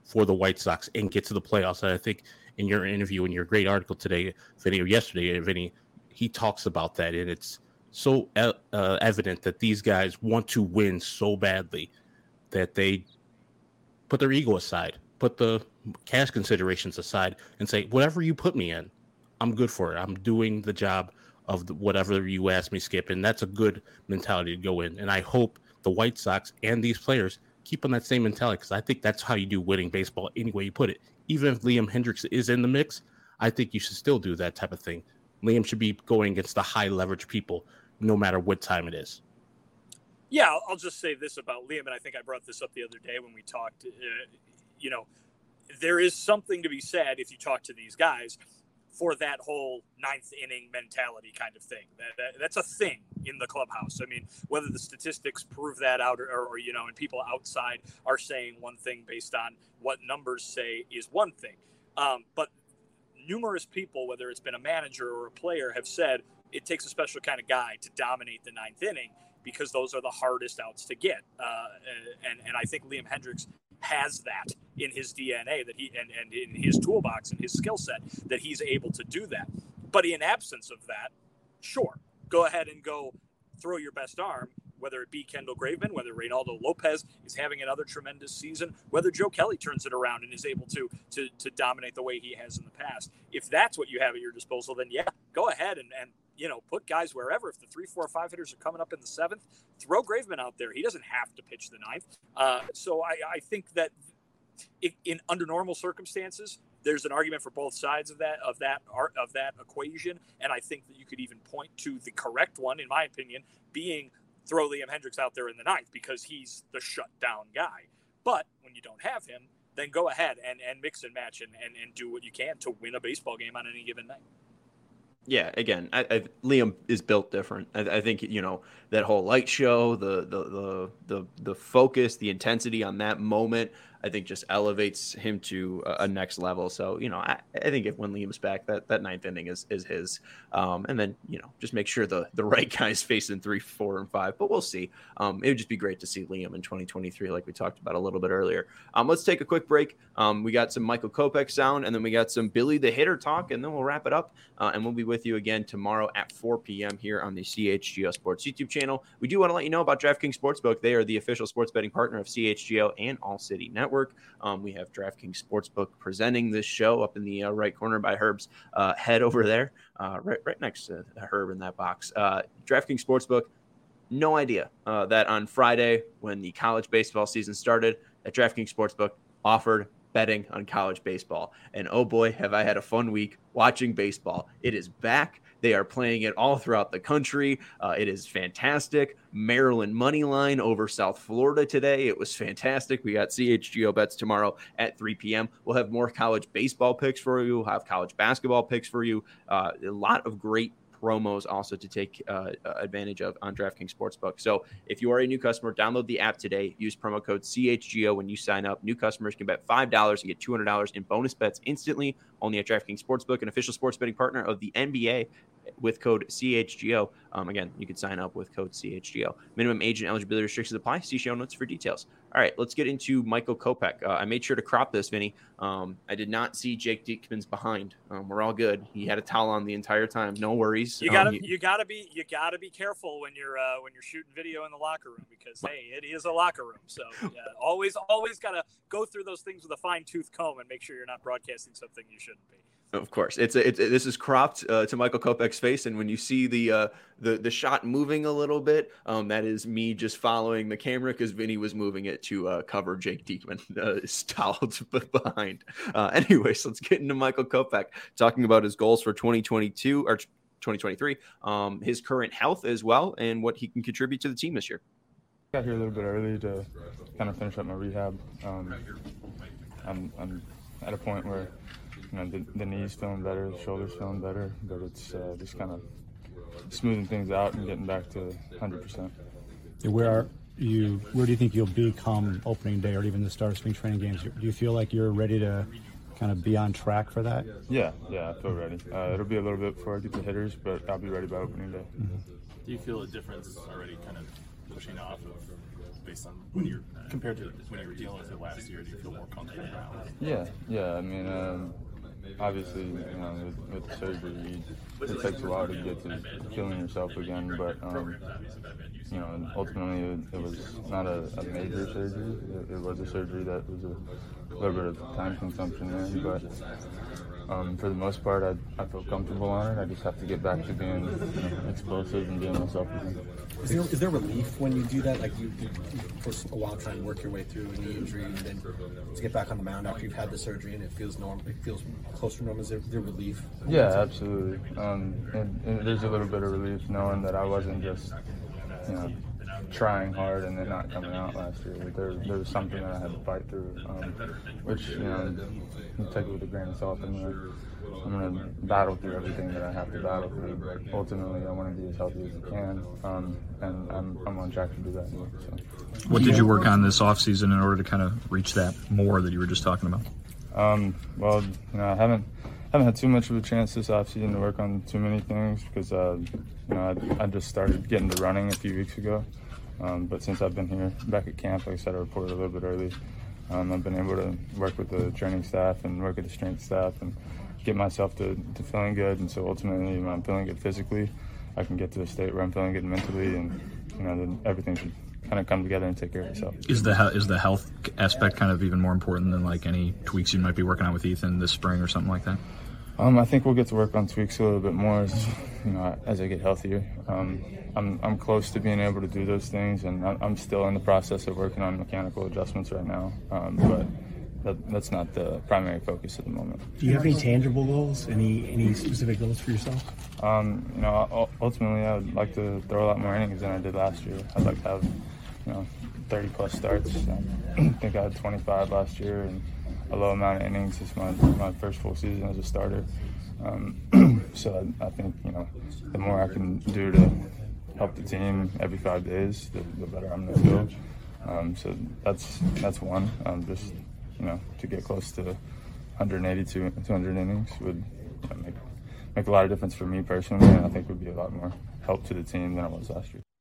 for the White Sox and get to the playoffs. And I think in your interview, in your great article today, Vinny, or yesterday, Vinny, he talks about that, and it's so uh, evident that these guys want to win so badly that they put their ego aside, put the cash considerations aside, and say, whatever you put me in, I'm good for it. I'm doing the job of the, whatever you ask me, Skip. And that's a good mentality to go in. And I hope the White Sox and these players keep on that same mentality, because I think that's how you do winning baseball any way you put it. Even if Liam Hendriks is in the mix, I think you should still do that type of thing. Liam should be going against the high leverage people no matter what time it is.
Yeah, I'll just say this about Liam, and I think I brought this up the other day when we talked. Uh, you know, there is something to be said if you talk to these guys for that whole ninth inning mentality kind of thing. That, that that's a thing in the clubhouse. I mean, whether the statistics prove that out or, or, or, you know, and people outside are saying one thing based on what numbers say is one thing. Um, but numerous people, whether it's been a manager or a player, have said it takes a special kind of guy to dominate the ninth inning because those are the hardest outs to get. Uh, and, and I think Liam Hendriks has that in his D N A that he and, and in his toolbox and his skill set that he's able to do that. But in absence of that, sure, go ahead and go throw your best arm, whether it be Kendall Graveman, whether Reynaldo Lopez is having another tremendous season, whether Joe Kelly turns it around and is able to, to, to dominate the way he has in the past. If that's what you have at your disposal, then yeah, go ahead and, and you know, put guys wherever. If the three, four, five hitters are coming up in the seventh, throw Graveman out there. He doesn't have to pitch the ninth. Uh, so I, I think that if, in under normal circumstances, there's an argument for both sides of that of that art of that equation, and I think that you could even point to the correct one, in my opinion, being throw Liam Hendriks out there in the ninth because he's the shutdown guy. But when you don't have him, then go ahead and, and mix and match and, and, and do what you can to win a baseball game on any given night.
Yeah, again, I, I, Liam is built different. I, I think, you know, that whole light show, the, the the the the focus, the intensity on that moment, I think just elevates him to a, a next level. So, you know, I, I think if when Liam's back, that, that ninth inning is is his. Um, and then, you know, just make sure the, the right guys face in three, four, and five. But we'll see. Um, it would just be great to see Liam in twenty twenty-three, like we talked about a little bit earlier. Um, let's take a quick break. Um, we got some Michael Kopech sound, and then we got some Billy the Hitter talk, and then we'll wrap it up. Uh, and we'll be with you again tomorrow at four p.m. here on the C H G O Sports YouTube channel. We do want to let you know about DraftKings Sportsbook. They are the official sports betting partner of C H G O and All City Network. Um, we have DraftKings Sportsbook presenting this show up in the uh, right corner by Herb's uh, head over there, uh, right right next to Herb in that box. Uh, DraftKings Sportsbook, no idea uh, that on Friday when the college baseball season started, that DraftKings Sportsbook offered betting on college baseball. And oh boy, have I had a fun week watching baseball. It is back. They are playing it all throughout the country. Uh, it is fantastic. Maryland money line over South Florida today. It was fantastic. We got C H G O bets tomorrow at three p.m. We'll have more college baseball picks for you. We'll have college basketball picks for you. Uh, a lot of great promos also to take uh, advantage of on DraftKings Sportsbook. So if you are a new customer, download the app today. Use promo code C H G O when you sign up. New customers can bet five dollars and get two hundred dollars in bonus bets instantly, only at DraftKings Sportsbook, an official sports betting partner of the N B A with code C H G O. Um, again, you can sign up with code C H G O. Minimum age and eligibility restrictions apply. See show notes for details. All right, let's get into Michael Kopech. Uh, I made sure to crop this, Vinny. Um, I did not see Jake Diekman's behind. Um, we're all good. He had a towel on the entire time. No worries.
You gotta,
um, he,
you gotta be, you gotta be careful when you're, uh, when you're shooting video in the locker room because hey, it is a locker room. So yeah, always, always gotta go through those things with a fine tooth comb and make sure you're not broadcasting something you shouldn't be.
Of course, it's a, it's a, this is cropped uh, to Michael Kopech's face, and when you see the uh, the the shot moving a little bit, um, that is me just following the camera because Vinny was moving it to uh, cover Jake Diekman, uh, stalled behind. Uh, anyways, let's get into Michael Kopech talking about his goals for twenty twenty-two or twenty twenty-three, um, his current health as well, and what he can contribute to the team this year.
I got here a little bit early to kind of finish up my rehab. Um, I'm, I'm at a point where. You know, the, the knee's feeling better, the shoulder's feeling better, but it's uh, just kind of smoothing things out and getting back to one hundred percent.
Where are you? Where do you think you'll be come opening day or even the start of spring training games? Do you feel like you're ready to kind of be on track for that?
Yeah, yeah, I feel ready. Uh, it'll be a little bit before I get the hitters, but I'll be ready by opening day.
Mm-hmm. Do you feel a difference already kind of pushing off of based on when you're compared to when you were dealing with it last year? Do you feel more comfortable now?
Yeah, yeah. I mean, um, obviously, you know, with, with the surgery, it takes a while to get to feeling yourself again. But um, you know, ultimately, it, it was not a, a major surgery. It, it was a surgery that was a little bit of time consumption there, but. Um, for the most part, I, I feel comfortable on it. I just have to get back to being you know, explosive and being myself again.
Is there, is there relief when you do that? Like you, you, you for a while try and work your way through a knee injury, and then to get back on the mound after you've had the surgery and it feels normal, it feels close to normal. Is there, is there relief?
Yeah, absolutely. Um, and, and there's a little bit of relief knowing that I wasn't just, you know, trying hard and then not coming out last year. There, there was something that I had to fight through, um, which, you know, you take it with a grain of salt. I'm gonna, I'm gonna battle through everything that I have to battle through, but ultimately I want to be as healthy as I can, um, and I'm, I'm on track to do that. So.
What did you work on this offseason in order to kind of reach that more that you were just talking about?
Um, well, you know, I haven't haven't had too much of a chance this offseason to work on too many things because, uh, you know, I, I just started getting to running a few weeks ago. Um, but since I've been here back at camp, like I said, I reported a little bit early. Um, I've been able to work with the training staff and work with the strength staff and get myself to, to feeling good. And so ultimately, when I'm feeling good physically, I can get to a state where I'm feeling good mentally, and you know, then everything should kind of come together and take care of itself.
Is the is the health aspect kind of even more important than like any tweaks you might be working on with Ethan this spring or something like that?
Um, I think we'll get to work on tweaks a little bit more as, you know, as I get healthier. Um, I'm I'm close to being able to do those things, and I'm still in the process of working on mechanical adjustments right now. Um, but that, that's not the primary focus at the moment.
Do you have any tangible goals? Any any specific goals for yourself?
Um, you know, ultimately, I would like to throw a lot more innings than I did last year. I'd like to have, you know, thirty plus starts. I think I had twenty-five last year, and a low amount of innings. It's my my first full season as a starter. Um, so I, I think, you know, the more I can do to help the team every five days, the, the better I'm going to feel. Um, so that's that's one. Um, just, you know, to get close to one eighty to two hundred innings would, you know, make make a lot of difference for me personally, and I think would be a lot more help to the team than it was last year.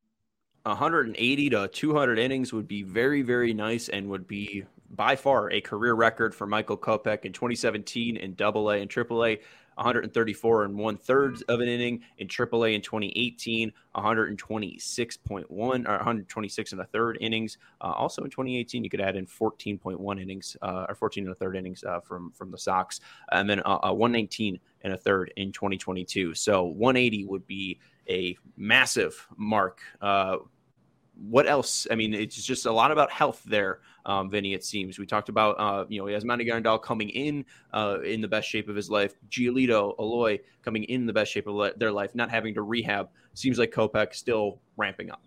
one eighty to two hundred innings would be very, very nice and would be by far a career record for Michael Kopech in twenty seventeen in Double A and Triple A. one thirty-four and one third of an inning in Triple A in twenty eighteen, one twenty-six point one or one twenty-six and a third innings. Uh, also in twenty eighteen, you could add in fourteen point one innings uh, or fourteen and a third innings uh, from from the Sox, and then uh, uh, one nineteen and a third in twenty twenty-two. So one eighty would be a massive mark. Uh, what else? I mean, it's just a lot about health there, um, Vinny, it seems. We talked about, uh, you know, Yasmani Grandal coming in uh, in the best shape of his life. Giolito, Eloy coming in the best shape of le- their life, not having to rehab. Seems like Kopech still ramping up.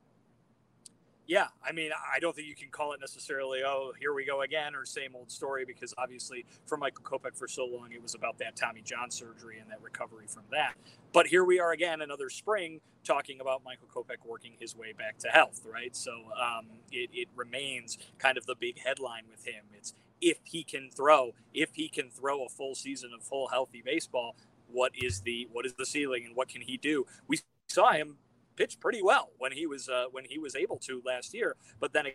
Yeah, I mean, I don't think you can call it necessarily, oh, here we go again, or same old story, because obviously for Michael Kopech for so long, it was about that Tommy John surgery and that recovery from that. But here we are again, another spring, talking about Michael Kopech working his way back to health, right? So um, it, it remains kind of the big headline with him. It's if he can throw, if he can throw a full season of full healthy baseball, what is the what is the ceiling and what can he do? We saw him pitched pretty well when he was uh, when he was able to last year, but then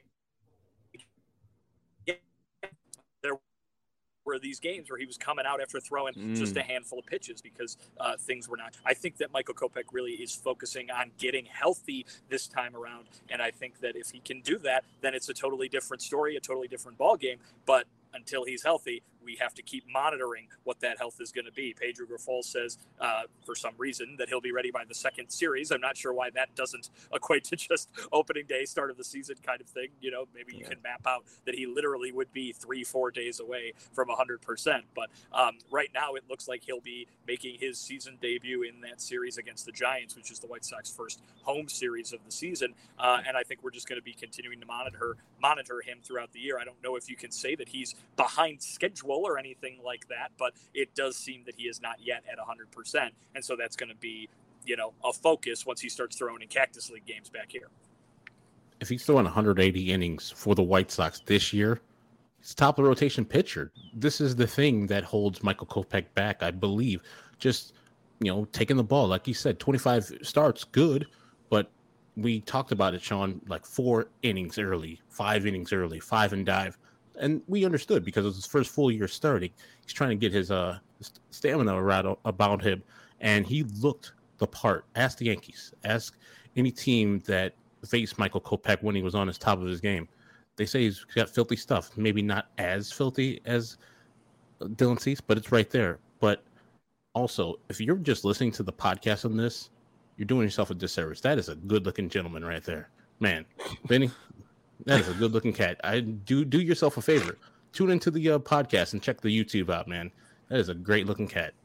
again, there were these games where he was coming out after throwing mm. just a handful of pitches because uh, things were not. I think that Michael Kopech really is focusing on getting healthy this time around, and I think that if he can do that, then it's a totally different story, a totally different ball game. But until he's healthy, we have to keep monitoring what that health is going to be. Pedro Grifol says, uh, for some reason, that he'll be ready by the second series. I'm not sure why that doesn't equate to just opening day, start of the season kind of thing. You know, maybe yeah. you can map out that he literally would be three, four days away from one hundred percent. But um, right now, it looks like he'll be making his season debut in that series against the Giants, which is the White Sox first home series of the season. Uh, and I think we're just going to be continuing to monitor monitor him throughout the year. I don't know if you can say that he's behind schedule or anything like that, but it does seem that he is not yet at one hundred percent, and so that's going to be, you know, a focus once he starts throwing in Cactus League games back here.
If he's throwing one hundred eighty innings for the White Sox this year, he's top of the rotation pitcher. This is the thing that holds Michael Kopech back, I believe. Just, you know, taking the ball, like you said, twenty-five starts, good, but we talked about it, Sean, like four innings early, five innings early, five and dive. And we understood because it was his first full year starting. He's trying to get his uh stamina right about him. And he looked the part. Ask the Yankees. Ask any team that faced Michael Kopech when he was on his top of his game. They say he's got filthy stuff. Maybe not as filthy as Dylan Cease, but it's right there. But also, if you're just listening to the podcast on this, you're doing yourself a disservice. That is a good-looking gentleman right there. Man, Benny, that is a good-looking cat. I do do yourself a favor. Tune into the uh, podcast and check the YouTube out, man. That is a great-looking cat.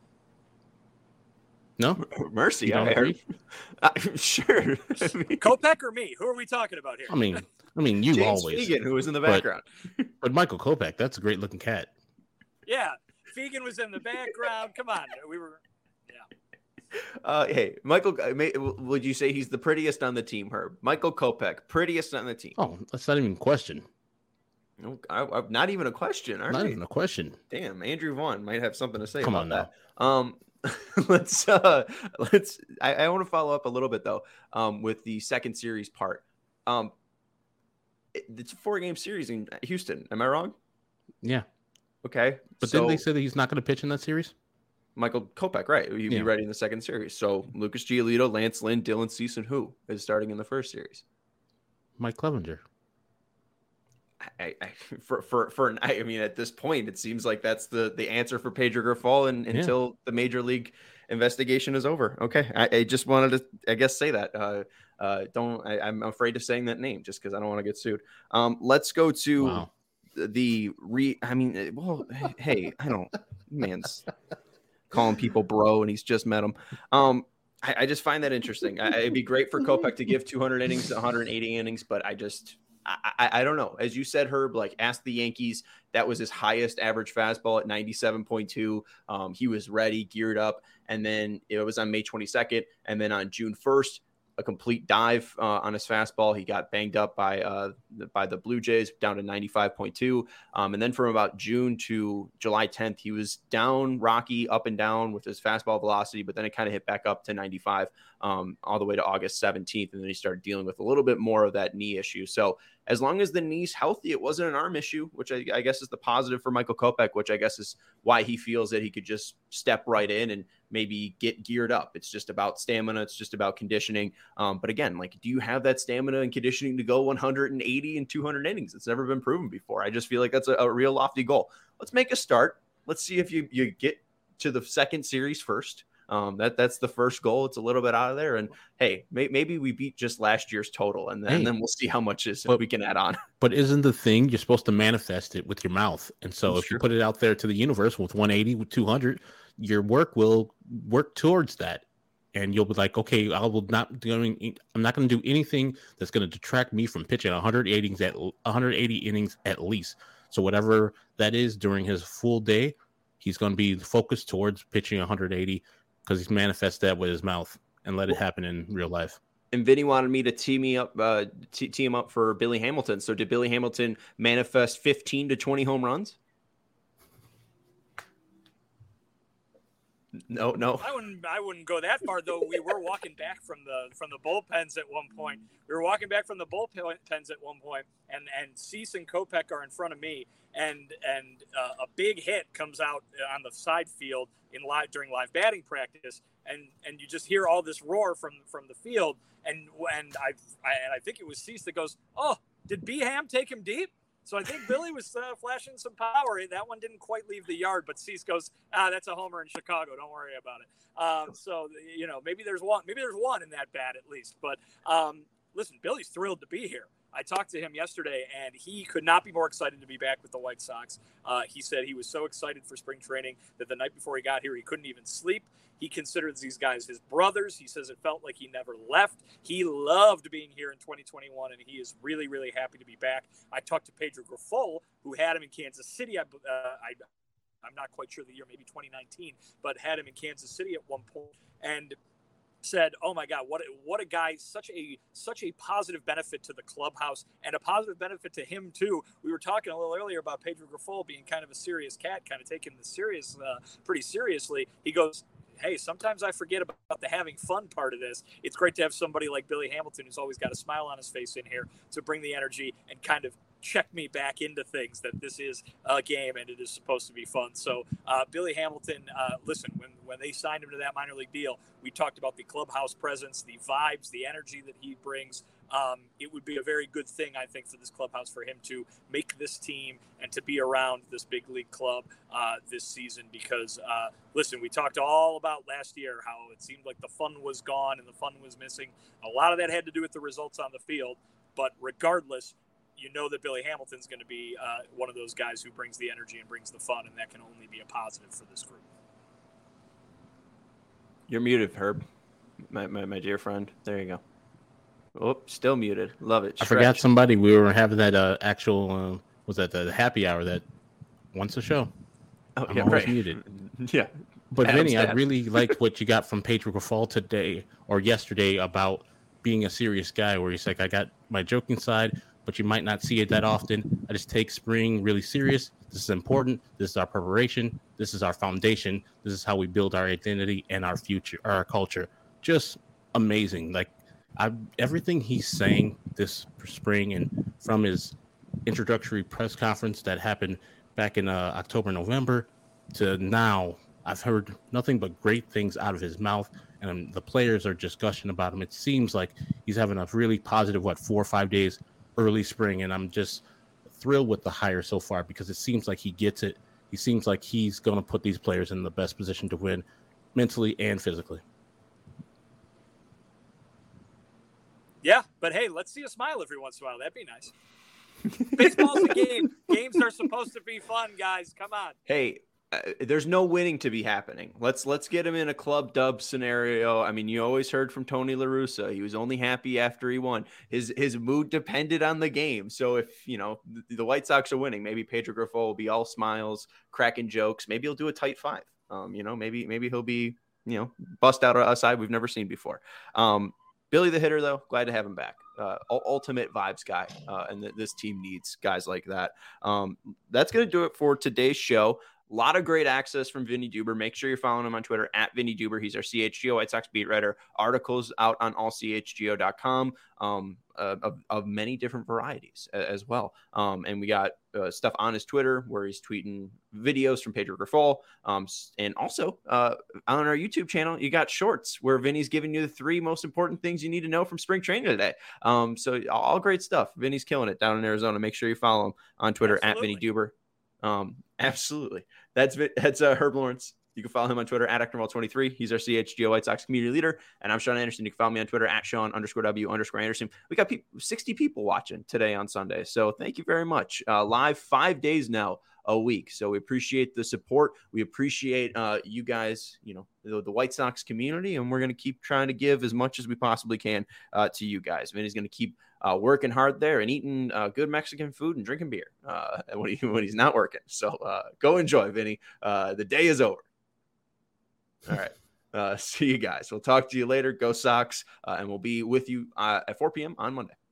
No?
Mercy, I heard. Uh, sure.
Kopech or me? Who are we talking about here?
I mean, I mean, you
James
always.
Fegan, who was in the
but,
background.
But Michael Kopech, that's a great-looking cat.
Yeah, Fegan was in the background. Come on, we were.
Uh, hey, Michael, would you say he's the prettiest on the team, Herb? Michael Kopech, prettiest on the team.
Oh, that's not even a question.
No, I, I, not even a question. Not
we? even a question.
Damn, Andrew Vaughn might have something to say
Come
about
on
that.
Now.
Um, let's uh, let's. I, I want to follow up a little bit though, um, with the second series part. Um, it, it's a four-game series in Houston. Am I wrong?
Yeah.
Okay,
but
so,
didn't they say that he's not going to pitch in that series?
Michael Kopech, right? He'd
yeah.
be ready in the second series. So Lucas Giolito, Lance Lynn, Dylan Cease, and who is starting in the first series?
Mike Clevenger.
I, I for for for I mean, at this point, it seems like that's the the answer for Pedro Grifol and, until yeah. the major league investigation is over. Okay, I, I just wanted to, I guess, say that. Uh, uh, don't I, I'm afraid of saying that name just because I don't want to get sued. Um, let's go to
wow.
the re. I mean, well, hey, I don't, man's. calling people bro and he's just met them. Um, I, I just find that interesting. I, it'd be great for Kopech to give two hundred innings to one hundred eighty innings, but I just, I, I, I don't know. As you said, Herb, like ask the Yankees, that was his highest average fastball at ninety-seven point two. Um, he was ready, geared up. And then it was on May twenty-second. And then on June first, a complete dive uh, on his fastball. He got banged up by uh, by the Blue Jays down to ninety-five point two. Um, and then from about June to July tenth, he was down rocky, up and down with his fastball velocity, but then it kind of hit back up to ninety-five um, all the way to August seventeenth. And then he started dealing with a little bit more of that knee issue. So as long as the knee's healthy, it wasn't an arm issue, which I, I guess is the positive for Michael Kopech, which I guess is why he feels that he could just step right in and maybe get geared up. It's just about stamina. It's just about conditioning. Um, but again, like, do you have that stamina and conditioning to go one hundred eighty and two hundred innings? It's never been proven before. I just feel like that's a, a real lofty goal. Let's make a start. Let's see if you, you get to the second series first. Um, that that's the first goal. It's a little bit out of there. And hey, may, maybe we beat just last year's total and then, hey, and then we'll see how much is but, we can add on.
But isn't the thing you're supposed to manifest it with your mouth? And so that's if true. You put it out there to the universe with one eighty, with two hundred, your work will work towards that. And you'll be like, okay, I will not doing. I'm not going to do anything that's going to detract me from pitching one hundred innings at one hundred eighty innings at least. So whatever that is during his full day, he's going to be focused towards pitching one hundred eighty because he's manifest that with his mouth and let it happen in real life.
And Vinny wanted me to tee me up, uh, t- tee him up for Billy Hamilton. So did Billy Hamilton manifest fifteen to twenty home runs? No, no.
I wouldn't. I wouldn't go that far, though. We were walking back from the from the bullpens at one point. We were walking back from the bullpens at one point, and and Cease and Kopech are in front of me, and and uh, a big hit comes out on the side field in live during live batting practice, and and you just hear all this roar from from the field, and and I, I and I think it was Cease that goes, "Oh, did B-Ham take him deep?" So I think Billy was uh, flashing some power. That one didn't quite leave the yard, but Cease goes, ah, that's a homer in Chicago. Don't worry about it. Um, so, you know, maybe there's one, maybe there's one in that bat at least. But um, listen, Billy's thrilled to be here. I talked to him yesterday, and he could not be more excited to be back with the White Sox. Uh, he said he was so excited for spring training that the night before he got here, he couldn't even sleep. He considers these guys his brothers. He says it felt like he never left. He loved being here in twenty twenty-one, and he is really, really happy to be back. I talked to Pedro Grifol, who had him in Kansas City. I, uh, I, I'm not quite sure the year, maybe twenty nineteen, but had him in Kansas City at one point, and said, "Oh my God, what a, what a guy! Such a such a positive benefit to the clubhouse, and a positive benefit to him too." We were talking a little earlier about Pedro Grifol being kind of a serious cat, kind of taking this serious, uh, pretty seriously. He goes, hey, sometimes I forget about the having fun part of this. It's great to have somebody like Billy Hamilton, who's always got a smile on his face in here, to bring the energy and kind of check me back into things, that this is a game and it is supposed to be fun. So uh, Billy Hamilton, uh, listen, when, when they signed him to that minor league deal, we talked about the clubhouse presence, the vibes, the energy that he brings. Um, it would be a very good thing, I think, for this clubhouse, for him to make this team and to be around this big league club uh, this season. Because, uh, listen, we talked all about last year how it seemed like the fun was gone and the fun was missing. A lot of that had to do with the results on the field. But regardless, you know that Billy Hamilton's going to be uh, one of those guys who brings the energy and brings the fun, and that can only be a positive for this group.
You're muted, Herb, my, my, my dear friend. There you go. Oh, still muted. Love it.
Stretch. I forgot somebody. We were having that uh, actual, uh, was that the happy hour that once a show?
Oh,
I'm
yeah,
always
right.
muted.
Yeah.
But
Adam's
Vinny,
dad.
I really liked what you got from Pedro Grifol today or yesterday about being a serious guy, where he's like, I got my joking side, but you might not see it that often. I just take spring really serious. This is important. This is our preparation. This is our foundation. This is how we build our identity and our future, or our culture. Just amazing. Like, I, everything he's saying this spring, and from his introductory press conference that happened back in uh, October, November, to now, I've heard nothing but great things out of his mouth, and um, the players are just gushing about him. It seems like he's having a really positive, what, four or five days early spring, and I'm just thrilled with the hire so far, because it seems like he gets it. He seems like he's going to put these players in the best position to win mentally and physically.
Yeah, but hey, let's see a smile every once in a while. That'd be nice. Baseball's a game. Games are supposed to be fun, guys. Come on.
Hey, uh, there's no winning to be happening. Let's let's get him in a club dub scenario. I mean, you always heard from Tony La Russa. He was only happy after he won. His his mood depended on the game. So if, you know, the, the White Sox are winning, maybe Pedro Grifol will be all smiles, cracking jokes. Maybe he'll do a tight five. Um, you know, maybe maybe he'll be, you know, bust out a side we've never seen before. Um, Billy the hitter, though, glad to have him back. Uh, ultimate vibes guy, uh, and th- this team needs guys like that. Um, that's going to do it for today's show. A lot of great access from Vinny Duber. Make sure you're following him on Twitter at Vinny Duber. He's our C H G O White Sox beat writer. Articles out on all C H G O dot com um, uh, of, of many different varieties uh, as well. Um, and we got uh, stuff on his Twitter where he's tweeting videos from Pedro Grifol. Um, and also uh, on our YouTube channel, you got shorts where Vinny's giving you the three most important things you need to know from spring training today. Um, so all great stuff. Vinny's killing it down in Arizona. Make sure you follow him on Twitter Absolutely. at Vinny Duber. Um, absolutely. That's that's uh, Herb Lawrence. You can follow him on Twitter at Actonwall twenty-three. He's our C H G O White Sox community leader. And I'm Sean Anderson. You can follow me on Twitter at Sean underscore W underscore Anderson. We got people, sixty people watching today on Sunday. So thank you very much. Uh, live five days now a week. So we appreciate the support. We appreciate uh, you guys, you know, the, the White Sox community. And we're going to keep trying to give as much as we possibly can uh, to you guys. Vinny's going to keep Uh, working hard there and eating uh, good Mexican food and drinking beer uh, when, he, when he's not working. So uh, go enjoy, Vinny. Uh, the day is over. All right. Uh, see you guys. We'll talk to you later. Go Sox. Uh, and we'll be with you uh, at four p.m. on Monday.